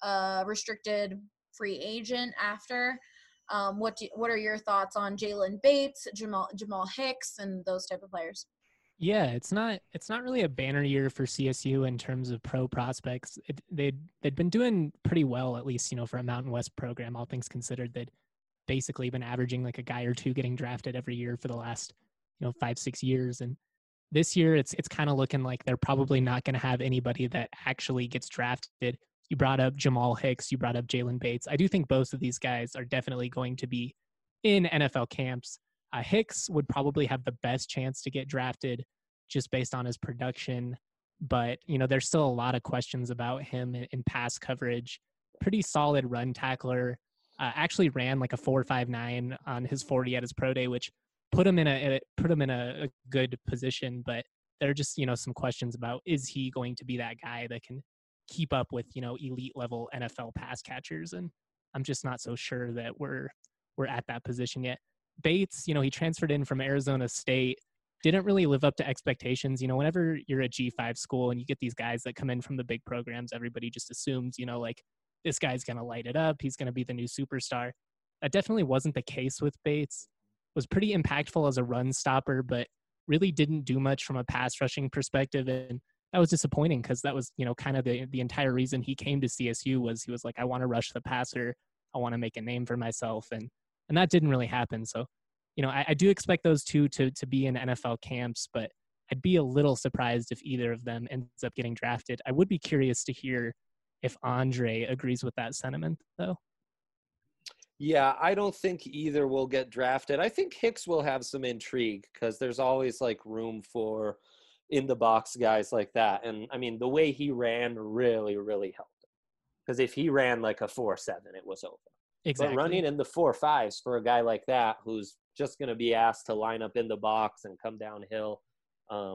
a restricted free agent after? Um, what do, what are your thoughts on Jalen Bates, Jamal Jamal Hicks, and those type of players? Yeah, it's not it's not really a banner year for C S U in terms of pro prospects. It, they'd they'd been doing pretty well, at least, you know, for a Mountain West program, all things considered. They'd basically been averaging like a guy or two getting drafted every year for the last, you know, five six years. And this year, it's it's kind of looking like they're probably not going to have anybody that actually gets drafted. You brought up Jamal Hicks, you brought up Jalen Bates. I do think both of these guys are definitely going to be in N F L camps. Uh, Hicks would probably have the best chance to get drafted just based on his production. But, you know, there's still a lot of questions about him in, in pass coverage. Pretty solid run tackler. Uh, actually ran like a four five nine on his forty at his pro day, which put him in a put him in a, a good position. But there are just, you know, some questions about, is he going to be that guy that can keep up with, you know, elite level N F L pass catchers? And I'm just not so sure that we're we're at that position yet. Bates, you know, he transferred in from Arizona State, didn't really live up to expectations. You know, whenever you're a G five school and you get these guys that come in from the big programs, everybody just assumes, you know, like, this guy's going to light it up. He's going to be the new superstar. That definitely wasn't the case with Bates. Was pretty impactful as a run stopper, but really didn't do much from a pass rushing perspective. And that was disappointing because that was, you know, kind of the, the entire reason he came to C S U was he was like, I want to rush the passer. I want to make a name for myself. And, and that didn't really happen. So, you know, I, I do expect those two to, to be in N F L camps, but I'd be a little surprised if either of them ends up getting drafted. I would be curious to hear if Andre agrees with that sentiment, though. Yeah, I don't think either will get drafted. I think Hicks will have some intrigue because there's always like room for in the box guys like that. And I mean, the way he ran really, really helped him. Because if he ran like a four seven, it was over. Exactly. But running in the four fives for a guy like that who's just going to be asked to line up in the box and come downhill, um,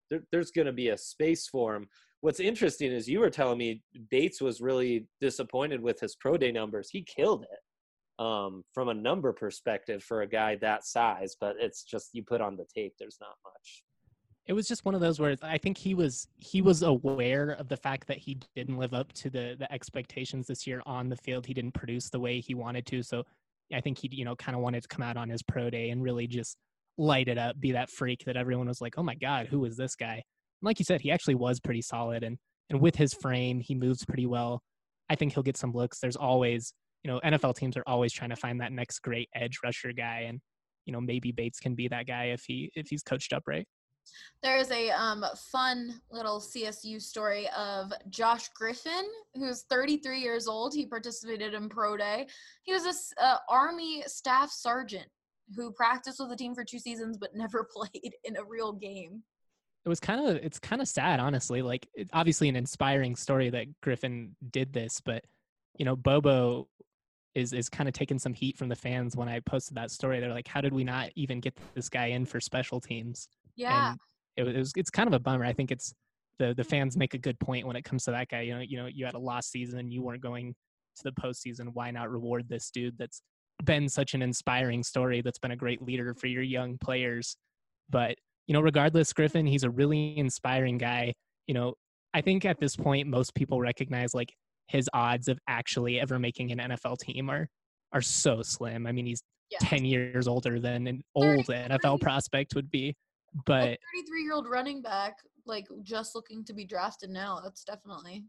there, there's going to be a space for him. What's interesting is you were telling me Bates was really disappointed with his pro day numbers. He killed it um, from a number perspective for a guy that size, but it's just you put on the tape, there's not much. It was just one of those where I think he was he was aware of the fact that he didn't live up to the the expectations this year on the field. He didn't produce the way he wanted to. So I think he, you know, kind of wanted to come out on his pro day and really just light it up, be that freak that everyone was like, oh my God, who is this guy? And like you said, he actually was pretty solid. And and with his frame, he moves pretty well. I think he'll get some looks. There's always, you know, N F L teams are always trying to find that next great edge rusher guy. And, you know, maybe Bates can be that guy if he if he's coached up right. There is a um, fun little C S U story of Josh Griffin, who's thirty-three years old. He participated in Pro Day. He was a uh, Army staff sergeant who practiced with the team for two seasons but never played in a real game. It was kind of it's kind of sad, honestly. Like, it, obviously an inspiring story that Griffin did this, but you know, Bobo is is kind of taking some heat from the fans when I posted that story. They're like, how did we not even get this guy in for special teams? Yeah. And it, it was it's kind of a bummer. I think it's the the fans make a good point when it comes to that guy. You know, you know, you had a lost season, you weren't going to the postseason. Why not reward this dude that's been such an inspiring story, that's been a great leader for your young players? But, you know, regardless, Griffin, he's a really inspiring guy. You know, I think at this point, most people recognize like his odds of actually ever making an N F L team are are so slim. I mean, he's Yeah. ten years older than an old N F L prospect would be. But a thirty-three-year-old running back, like, just looking to be drafted now, that's definitely.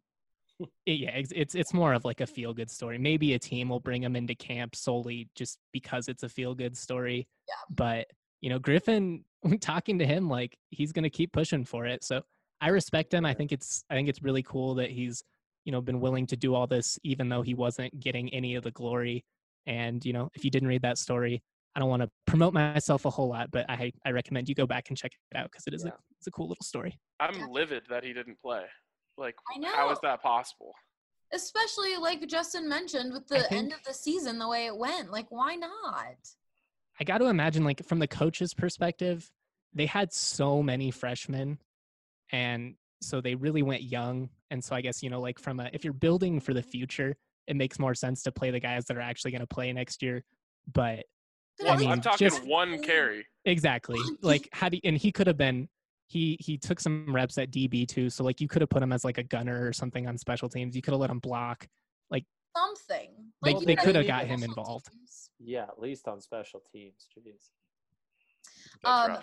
yeah, it's, it's it's more of like a feel-good story. Maybe a team will bring him into camp solely just because it's a feel-good story. Yeah. But, you know, Griffin, talking to him, like, he's going to keep pushing for it. So I respect him. I think it's I think it's really cool that he's, you know, been willing to do all this, even though he wasn't getting any of the glory. And, you know, if you didn't read that story, I don't want to promote myself a whole lot, but I I recommend you go back and check it out because it is Yeah. a it's a cool little story. I'm livid that he didn't play. Like, I know. how is that possible? Especially, like Justin mentioned, with I the think- end of the season, the way it went. Like, why not? I got to imagine, like, from the coach's perspective, they had so many freshmen, and so they really went young. And so I guess, you know, like, from a if you're building for the future, it makes more sense to play the guys that are actually going to play next year. But I mean, I'm talking just- one carry. exactly, like, how do you, and he could have been he he took some reps at D B too, so like you could have put him as like a gunner or something on special teams. You could have let him block. Something. They- Like, you they gotta could have do got him special involved. teams. Yeah, at least on special teams. Jeez. That's Um, rough.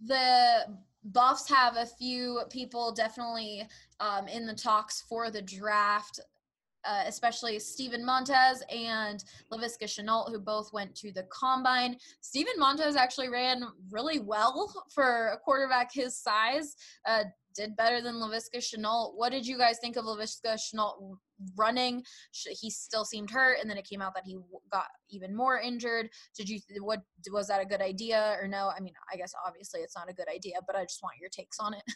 The Buffs have a few people definitely um, in the talks for the draft, uh, especially Steven Montez and Laviska Shenault, who both went to the Combine. Steven Montez actually ran really well for a quarterback his size, uh, did better than Laviska Shenault. What did you guys think of Laviska Shenault running? Sh- He still seemed hurt, and then it came out that he w- got even more injured. Did you, what, was that a good idea or no? I mean, I guess obviously it's not a good idea, but I just want your takes on it.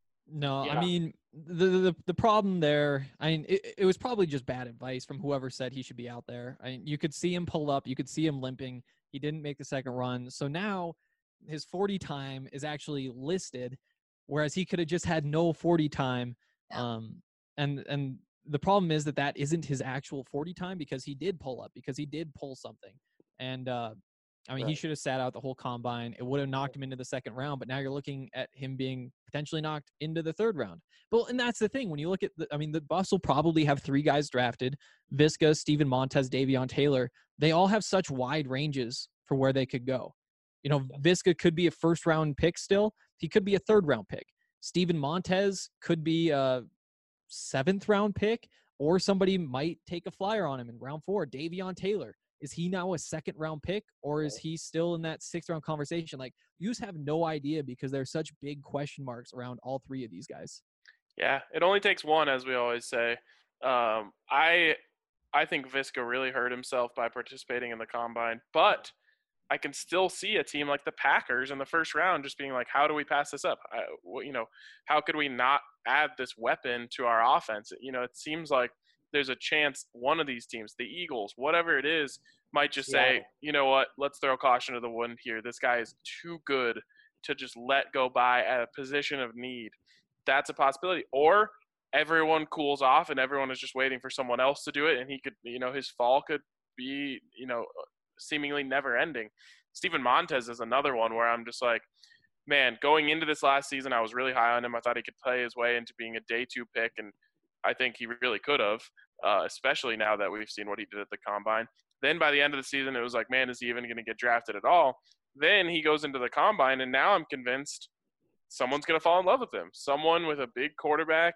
No, Yeah. I mean the, the the problem there. I mean, it, it was probably just bad advice from whoever said he should be out there. I mean, you could see him pull up, you could see him limping. He didn't make the second run, so now his forty time is actually listed, whereas he could have just had no forty time. Yeah. Um, and and the problem is that that isn't his actual forty time because he did pull up, because he did pull something, and uh, I mean, he Right. should have sat out the whole combine. It would have knocked him into the second round, but now you're looking at him being potentially knocked into the third round. But and that's the thing. When you look at the, I mean, the Buffs will probably have three guys drafted: Visca, Steven Montez, Davion Taylor. They all have such wide ranges for where they could go. You know, Visca could be a first round pick still. He could be a third round pick. Steven Montez could be a seventh round pick, or somebody might take a flyer on him in round four. Davion Taylor. Is he now a second round pick, or is he still in that sixth round conversation? Like, you just have no idea because there's such big question marks around all three of these guys. Yeah, it only takes one, as we always say. Um, I I think Visca really hurt himself by participating in the combine, but I can still see a team like the Packers in the first round just being like, how do we pass this up? I, what, you know, how could we not add this weapon to our offense? You know, it seems like there's a chance one of these teams, the Eagles, whatever it is, might just say, Seattle. you know what, let's throw caution to the wind here. This guy is too good to just let go by at a position of need. That's a possibility. Or everyone cools off and everyone is just waiting for someone else to do it, and he could, you know, his fall could be, you know, seemingly never ending. Steven Montez is another one where I'm just like, man, going into this last season, I was really high on him. I thought he could play his way into being a day two pick, and I think he really could have, uh, especially now that we've seen what he did at the Combine. Then by the end of the season, it was like, man, is he even going to get drafted at all? Then he goes into the Combine, and now I'm convinced someone's going to fall in love with him. Someone with a big quarterback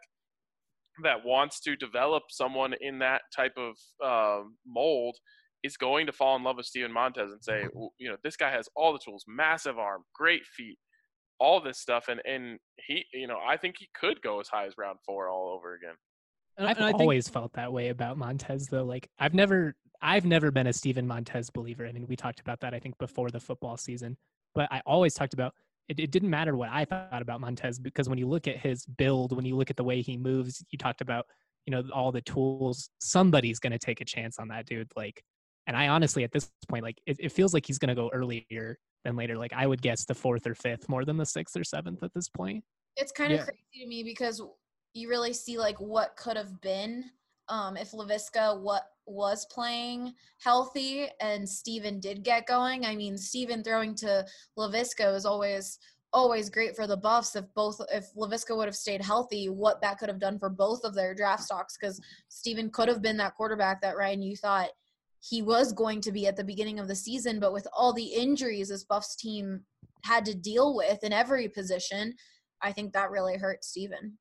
that wants to develop someone in that type of uh, mold is going to fall in love with Steven Montez and say, you know, this guy has all the tools, massive arm, great feet, all this stuff. And, and he, you know, I think he could go as high as round four all over again. And, I've and I always think, felt that way about Montez, though. Like I've never, I've never been a Steven Montez believer. I mean, we talked about that, I think, before the football season, but I always talked about it. It didn't matter what I thought about Montez, because when you look at his build, when you look at the way he moves, you talked about, you know, all the tools, somebody's going to take a chance on that dude. Like, and I honestly, at this point, like it, it feels like he's going to go earlier than later. Like I would guess the fourth or fifth more than the sixth or seventh at this point. It's kind of Yeah. crazy to me because you really see like what could have been um, if Laviska what was playing healthy and Steven did get going. I mean, Steven throwing to Laviska is always always great for the Buffs. If both if Laviska would have stayed healthy, what that could have done for both of their draft stocks, because Steven could have been that quarterback that, Ryan, you thought he was going to be at the beginning of the season, but with all the injuries this Buffs team had to deal with in every position, I think that really hurt Steven.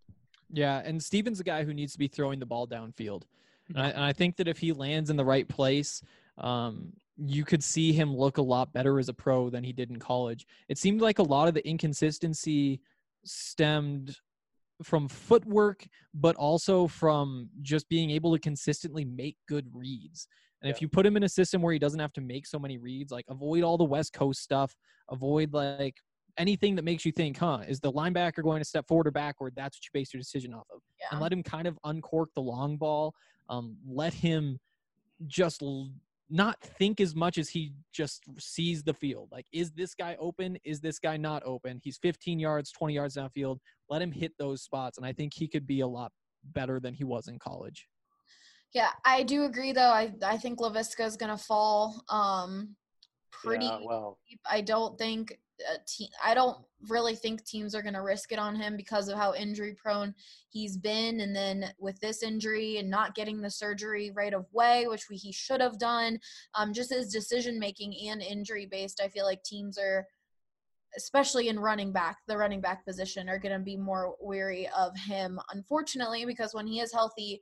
Yeah, and Steven's a guy who needs to be throwing the ball downfield. And I, and I think that if he lands in the right place, um, you could see him look a lot better as a pro than he did in college. It seemed like a lot of the inconsistency stemmed from footwork, but also from just being able to consistently make good reads. And Yeah. if you put him in a system where he doesn't have to make so many reads, like avoid all the West Coast stuff, avoid like anything that makes you think, huh, is the linebacker going to step forward or backward? That's what you base your decision off of. Yeah. And let him kind of uncork the long ball. Um, let him just l- not think as much as he just sees the field. Like, is this guy open? Is this guy not open? He's fifteen yards, twenty yards downfield. Let him hit those spots. And I think he could be a lot better than he was in college. Yeah, I do agree, though. I, I think Laviska is going to fall um, pretty Yeah, well, deep. I don't think a te- I don't really think teams are going to risk it on him because of how injury prone he's been. And then with this injury and not getting the surgery right away, which we, he should have done, um, just his decision making and injury based, I feel like teams are, especially in running back, the running back position, are going to be more wary of him, unfortunately, because when he is healthy,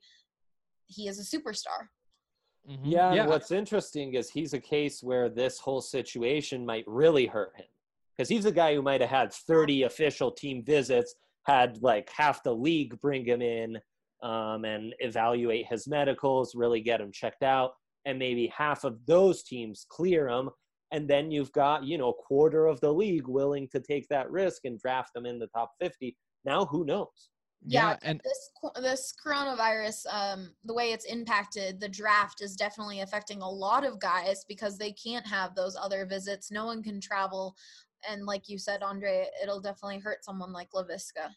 he is a superstar. Mhm. yeah, and yeah. what's interesting is he's a case where this whole situation might really hurt him. Because he's a guy who might have had thirty official team visits, had like half the league bring him in um, and evaluate his medicals, really get him checked out, and maybe half of those teams clear him. And then you've got, you know, a quarter of the league willing to take that risk and draft them in the top fifty. Now, who knows? Yeah, and this this coronavirus, um, the way it's impacted the draft is definitely affecting a lot of guys because they can't have those other visits. No one can travel. And like you said, Andre, it'll definitely hurt someone like Laviska.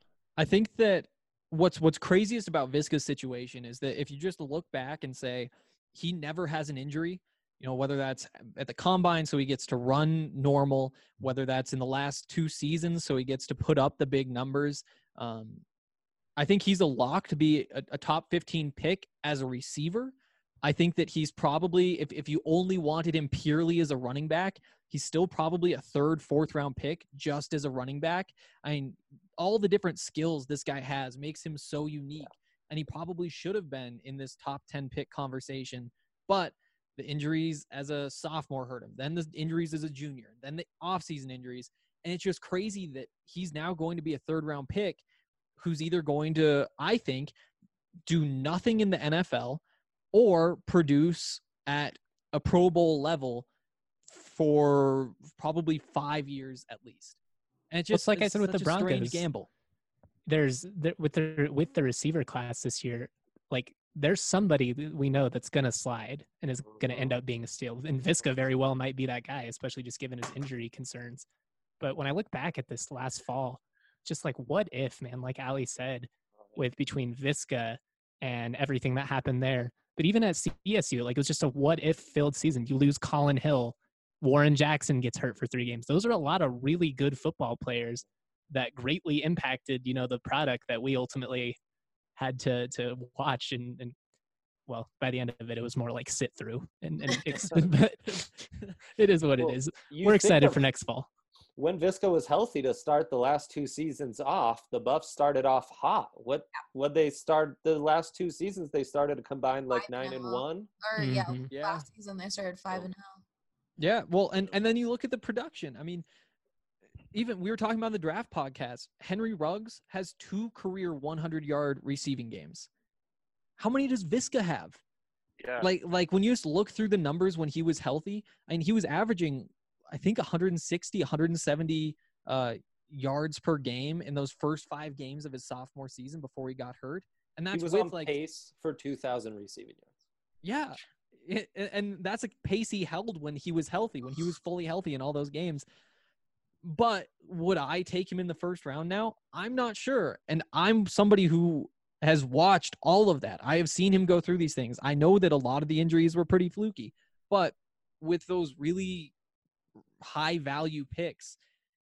I think that what's what's craziest about Viska's situation is that if you just look back and say he never has an injury, you know, whether that's at the combine so he gets to run normal, whether that's in the last two seasons so he gets to put up the big numbers, um, I think he's a lock to be a, a top fifteen pick as a receiver. I think that he's probably, if, if you only wanted him purely as a running back, he's still probably a third, fourth round pick just as a running back. I mean, all the different skills this guy has makes him so unique, and he probably should have been in this top ten pick conversation. But the injuries as a sophomore hurt him, then the injuries as a junior, then the offseason injuries. And it's just crazy that he's now going to be a third round pick who's either going to, I think, do nothing in the N F L or produce at a Pro Bowl level for probably five years at least. And it's Well, just it's like I it's said with the such a strange Broncos. gamble. There's the, with the with the receiver class this year, like there's somebody that we know that's gonna slide and is gonna end up being a steal. And Viska very well might be that guy, especially just given his injury concerns. But when I look back at this last fall, just like what if, man, like Ali said, with between Visca and everything that happened there. But even at C S U, like it was just a what if filled season. You lose Colin Hill, Warren Jackson gets hurt for three games. Those are a lot of really good football players that greatly impacted, you know, the product that we ultimately had to to watch and, and well, by the end of it, it was more like sit through and, and but it is what Well, it is. you We're think excited of for next fall. When Visca was healthy to start the last two seasons off, the Buffs started off hot. What what they start the last two seasons? They started a combined like Five nine and now. one. Or yeah, Mhm. Yeah. last season they started five and oh. Yeah, well, and, and then you look at the production. I mean, even we were talking about the draft podcast. Henry Ruggs has two career hundred-yard receiving games. How many does Visca have? Yeah. Like, like when you just look through the numbers when he was healthy, I mean, he was averaging, I think, one sixty, one seventy uh, yards per game in those first five games of his sophomore season before he got hurt. And that's He was with on like pace for two thousand receiving yards. Yeah. It, and that's a pace he held when he was healthy, when he was fully healthy in all those games. But would I take him in the first round now? I'm not sure. And I'm somebody who has watched all of that. I have seen him go through these things. I know that a lot of the injuries were pretty fluky, but with those really high value picks,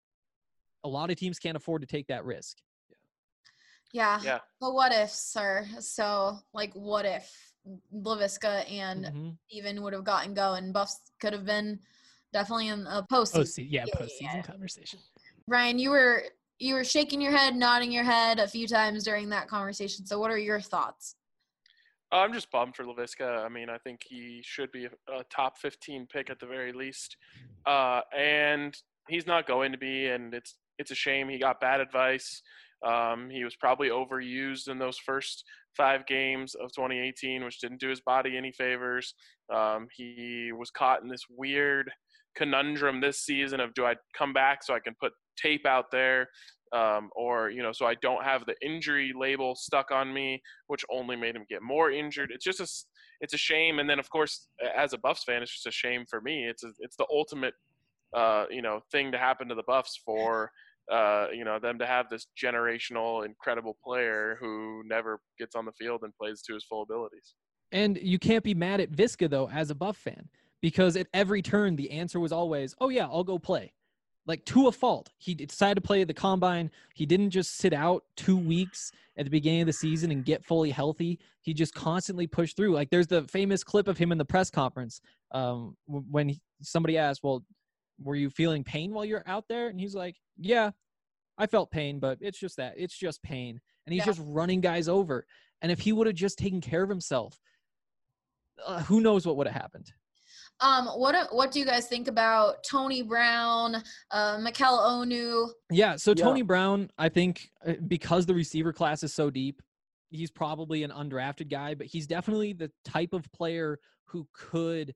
a lot of teams can't afford to take that risk. Yeah. Yeah. But what ifs, sir? So, like, what if Laviska and Mm-hmm. even would have gotten going? Buffs could have been definitely in a postseason. Postseason, yeah, Yeah, postseason yeah. conversation. Ryan, you were you were shaking your head, nodding your head a few times during that conversation. So, what are your thoughts? I'm just bummed for Laviska. I mean, I think he should be a, a top fifteen pick at the very least, uh, and he's not going to be. And it's it's a shame. He got bad advice. Um, he was probably overused in those first five games of twenty eighteen, which didn't do his body any favors. Um, he was caught in this weird conundrum this season of, do I come back so I can put tape out there, um, or, you know, so I don't have the injury label stuck on me, which only made him get more injured. It's just a, it's a shame. And then, of course, as a Buffs fan, it's just a shame for me. It's a, it's the ultimate, uh, you know, thing to happen to the Buffs for, uh, you know, them to have this generational, incredible player who never gets on the field and plays to his full abilities. And you can't be mad at Visca, though, as a Buff fan, because at every turn, the answer was always, oh, yeah, I'll go play. Like, to a fault. He decided to play at the Combine. He didn't just sit out two weeks at the beginning of the season and get fully healthy. He just constantly pushed through. Like, there's the famous clip of him in the press conference um, when he, somebody asked, well, were you feeling pain while you're out there? And he's like, yeah, I felt pain, but it's just that. It's just pain. And he's Yeah. just running guys over. And if he would have just taken care of himself, uh, who knows what would have happened. Um, what what do you guys think about Tony Brown, uh, Mikel Onu? Yeah, so Yeah. Tony Brown, I think uh, because the receiver class is so deep, he's probably an undrafted guy, but he's definitely the type of player who could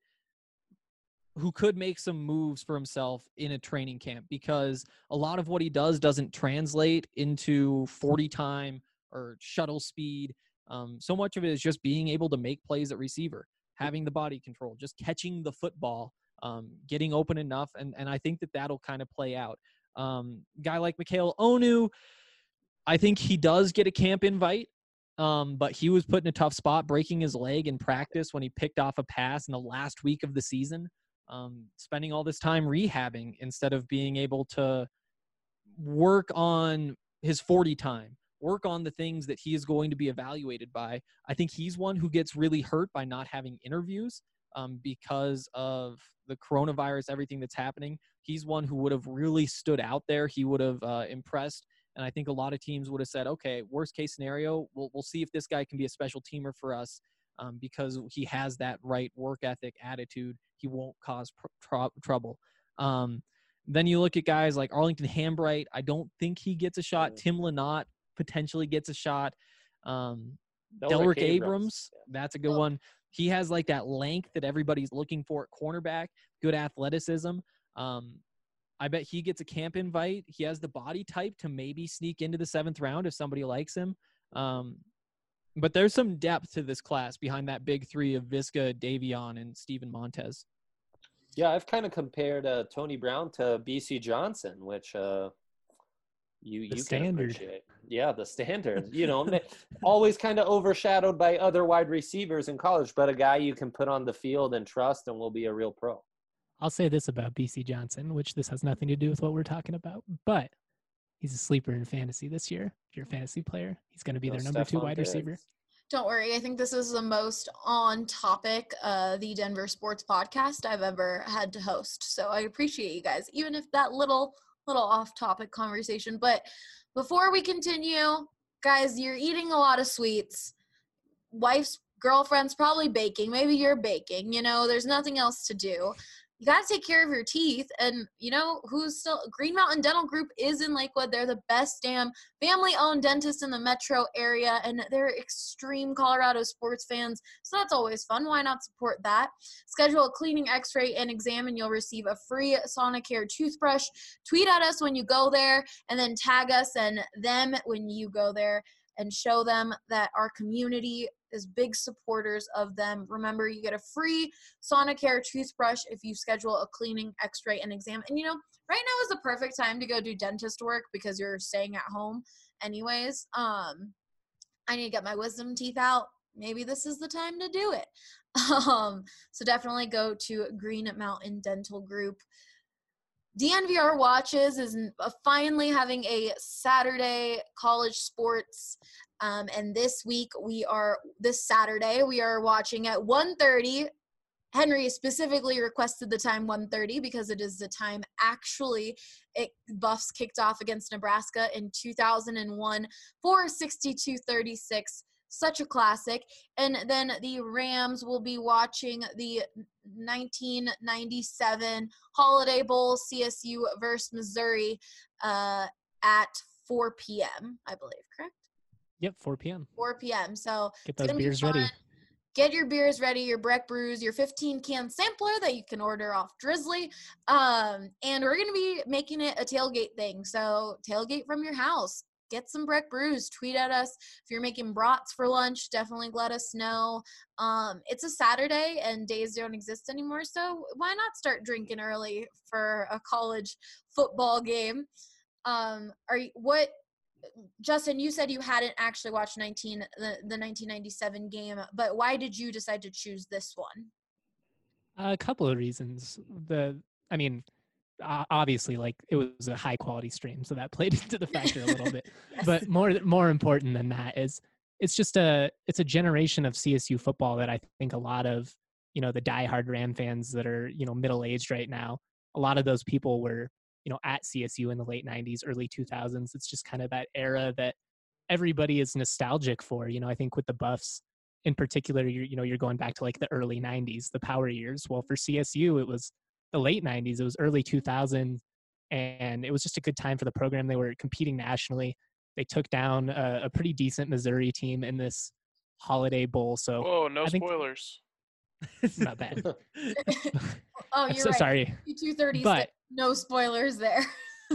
who could make some moves for himself in a training camp, because a lot of what he does doesn't translate into forty time or shuttle speed. Um, so much of it is just being able to make plays at receiver, having the body control, just catching the football, um, getting open enough. And, and I think that that'll kind of play out. Um, guy like Mikel Onu, I think he does get a camp invite, um, but he was put in a tough spot, breaking his leg in practice when he picked off a pass in the last week of the season, um, spending all this time rehabbing instead of being able to work on his forty time, work on the things that he is going to be evaluated by. I think he's one who gets really hurt by not having interviews um, because of the coronavirus, everything that's happening. He's one who would have really stood out there. He would have uh, impressed. And I think a lot of teams would have said, okay, worst case scenario, we'll, we'll see if this guy can be a special teamer for us um, because he has that right work ethic, attitude. He won't cause pr- tr- trouble. Um, then you look at guys like Arlington Hambright. I don't think he gets a shot. Tim Lynott potentially gets a shot. Um, Delrick Abrams, Abrams. that's a good one. He has like that length that everybody's looking for at cornerback, good athleticism. Um, I bet he gets a camp invite. He has the body type to maybe sneak into the seventh round if somebody likes him. Um, but there's some depth to this class behind that big three of Visca, Davion, and Steven Montez. Yeah, I've kind of compared uh, Tony Brown to B C Johnson, which uh, you The you standard. can appreciate. Yeah, the standard. You know, ma- always kind of overshadowed by other wide receivers in college, but a guy you can put on the field and trust and will be a real pro. I'll say this about B C Johnson, which this has nothing to do with what we're talking about, but he's a sleeper in fantasy this year. If you're a fantasy player, he's going to be No their number two Stephon wide Diggs. receiver. Don't worry. I think this is the most on topic, uh, the Denver sports podcast I've ever had to host. So I appreciate you guys, even if that little, little off topic conversation. But before we continue, guys, you're eating a lot of sweets. Wife's girlfriend's probably baking. Maybe you're baking. You know, there's nothing else to do. You got to take care of your teeth. And, you know, who's still – Green Mountain Dental Group is in Lakewood. They're the best damn family-owned dentist in the metro area, and they're extreme Colorado sports fans, so that's always fun. Why not support that? Schedule a cleaning, x-ray, and exam, and you'll receive a free Sonicare toothbrush. Tweet at us when you go there, and then tag us and them when you go there, and show them that our community is big supporters of them. Remember, you get a free Sonicare toothbrush if you schedule a cleaning, x-ray, and exam. And, you know, right now is the perfect time to go do dentist work because you're staying at home anyways. Um, I need to get my wisdom teeth out. Maybe this is the time to do it. Um, so definitely go to Green Mountain Dental Group. D N V R Watches is finally having a Saturday college sports. Um, and this week we are, this Saturday, we are watching at one thirty. Henry specifically requested the time one thirty because it is the time actually it Buffs kicked off against Nebraska in two thousand one for sixty-two thirty-six. Such a classic. And then the Rams will be watching the nineteen ninety-seven Holiday Bowl, C S U versus Missouri, uh, at four p.m., I believe, correct? Yep, four p.m. four p.m. So Get it's those gonna be beers fun. ready. Get your beers ready, your Breck Brews, your fifteen-can sampler that you can order off Drizzly. Um, and we're going to be making it a tailgate thing. So tailgate from your house. Get some Breck Brews. Tweet at us. If you're making brats for lunch, definitely let us know. Um, it's a Saturday, and days don't exist anymore, so why not start drinking early for a college football game? Um, are you, what – Justin, you said you hadn't actually watched nineteen the, the nineteen ninety-seven game, but why did you decide to choose this one? A couple of reasons. The, I mean, uh, obviously, like it was a high quality stream, so that played into the factor a little bit. Yes. But more, more important than that is it's just a, it's a generation of C S U football that I think a lot of, you know, the diehard Ram fans that are, you know, middle aged right now, a lot of those people were, you know, at C S U in the late nineties, early two thousands. It's just kind of that era that everybody is nostalgic for. You know, I think with the Buffs in particular, you're, you know, you're going back to like the early nineties, the power years. Well, for C S U, it was the late nineties, it was early two thousand, and it was just a good time for the program. They were competing nationally. They took down a, a pretty decent Missouri team in this Holiday Bowl. So Whoa, no I think spoilers. it's not bad. Oh, I'm you're so right. sorry. two thirty-six. But No spoilers there.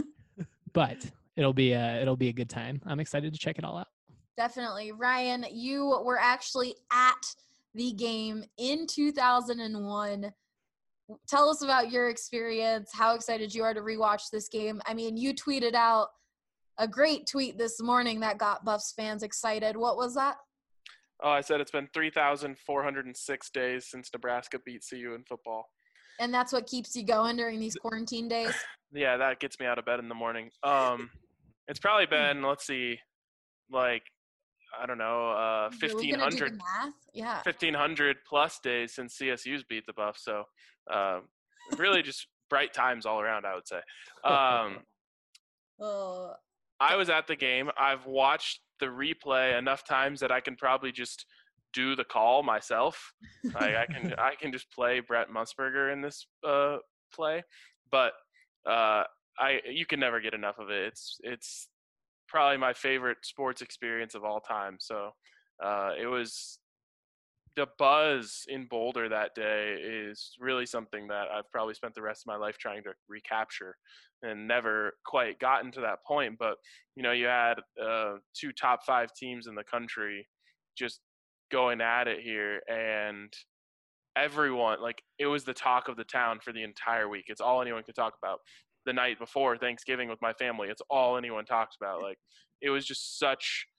but it'll be a it'll be a good time. I'm excited to check it all out. Definitely. Ryan, you were actually at the game in two thousand one. Tell us about your experience, how excited you are to rewatch this game. I mean, you tweeted out a great tweet this morning that got Buffs fans excited. What was that? Oh, I said it's been three thousand four hundred six days since Nebraska beat C U in football. And that's what keeps you going during these quarantine days? Yeah, that gets me out of bed in the morning. Um, it's probably been, let's see, like, I don't know, uh, We're fifteen gonna do the hundred, math? Yeah. fifteen hundred plus days since C S U's beat the Buffs. So uh, really just bright times all around, I would say. Um, Oh, I was at the game. I've watched the replay enough times that I can probably just do the call myself. Like I can, I can just play Brett Musburger in this uh, play, but uh, I, you can never get enough of it. It's, it's probably my favorite sports experience of all time. So uh, it was the buzz in Boulder that day is really something that I've probably spent the rest of my life trying to recapture and never quite gotten to that point. But, you know, you had uh, two top five teams in the country just going at it here. And everyone, like, it was the talk of the town for the entire week. It's all anyone could talk about. The night before Thanksgiving with my family, it's all anyone talked about. Like, it was just such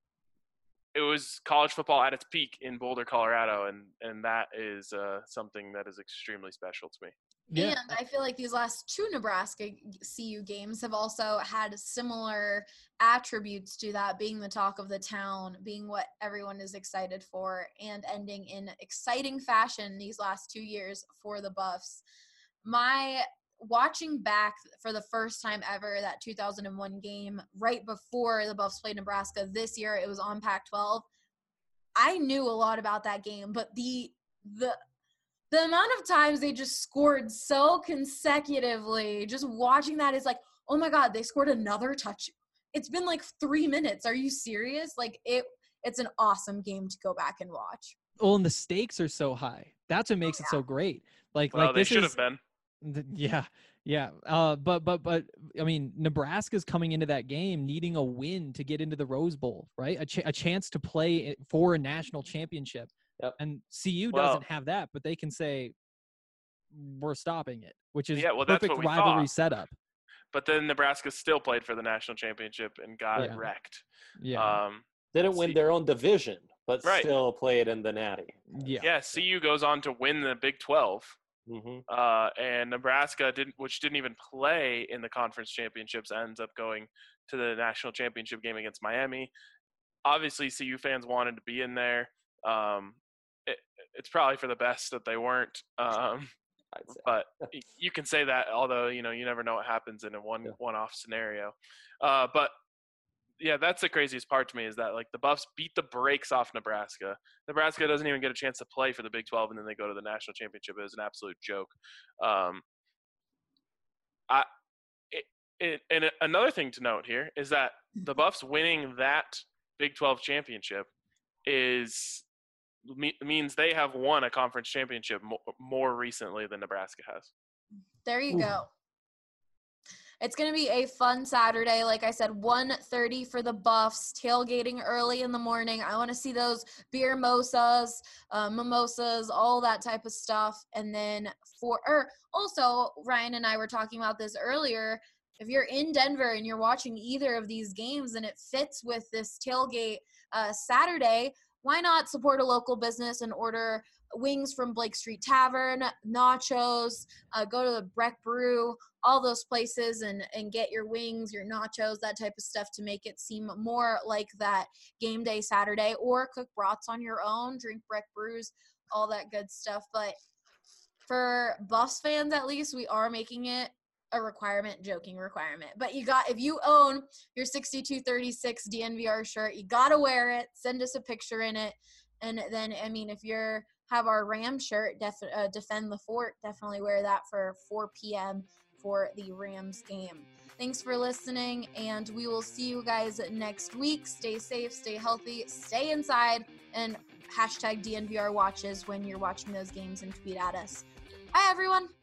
– it was college football at its peak in Boulder, Colorado, and, and that is uh, something that is extremely special to me. Yeah. And I feel like these last two Nebraska C U games have also had similar attributes to that, being the talk of the town, being what everyone is excited for, and ending in exciting fashion these last two years for the Buffs. My watching back for the first time ever that two thousand one game right before the Buffs played Nebraska this year, it was on Pac twelve. I knew a lot about that game, but the the The amount of times they just scored so consecutively, just watching that is like, oh my God, they scored another touch. It's been like three minutes. Are you serious? Like it, it's an awesome game to go back and watch. Well, and the stakes are so high. That's what makes Oh, it so great. Like, Well, like they this should is, have been. th- yeah, yeah. Uh, but, but, but, I mean, Nebraska's coming into that game needing a win to get into the Rose Bowl, right? A, ch- a chance to play for a national championship. Yep. And C U Well- doesn't have that, but they can say, we're stopping it, which is Yeah, well, that's perfect what we rivalry thought. setup. But then Nebraska still played for the national championship and got Yeah. wrecked. Yeah. Um, Didn't win See- their own division, but Right. still played in the Natty. yeah. yeah, C U goes on to win the Big twelve. hmm Uh, and Nebraska didn't, which didn't even play in the conference championships, ends up going to the national championship game against Miami. Obviously, C U fans wanted to be in there. Um, it, it's probably for the best that they weren't. Um, I'd say. but y- you can say that, although you know you never know what happens in a one Yeah. one-off scenario. Uh, but yeah, that's the craziest part to me is that like the Buffs beat the brakes off Nebraska. Nebraska doesn't even get a chance to play for the Big twelve, and then they go to the national championship. It was an absolute joke. Um, I it, it, and another thing to note here is that the Buffs winning that Big twelve championship is me, means they have won a conference championship more, more recently than Nebraska has. There you Ooh. go. It's going to be a fun Saturday. Like I said, one thirty for the Buffs, tailgating early in the morning. I want to see those beer mimosas, uh, mimosas, all that type of stuff. And then for – or also, Ryan and I were talking about this earlier. If you're in Denver and you're watching either of these games and it fits with this tailgate uh, Saturday, why not support a local business and order wings from Blake Street Tavern, nachos, uh, go to the Breck Brew, all those places and, and get your wings, your nachos, that type of stuff to make it seem more like that game day Saturday, or cook brats on your own, drink Breck Brews, all that good stuff. But for Buffs fans, at least, we are making it a requirement, joking requirement. But you got, if you own your sixty-two thirty-six D N V R shirt, you got to wear it. Send us a picture in it. And then, I mean, if you're have our Ram shirt, def, uh, Defend the Fort, definitely wear that for four p.m. for the Rams game. Thanks for listening, and we will see you guys next week. Stay safe, stay healthy, stay inside, and hashtag D N V R watches when you're watching those games and tweet at us. Bye, everyone.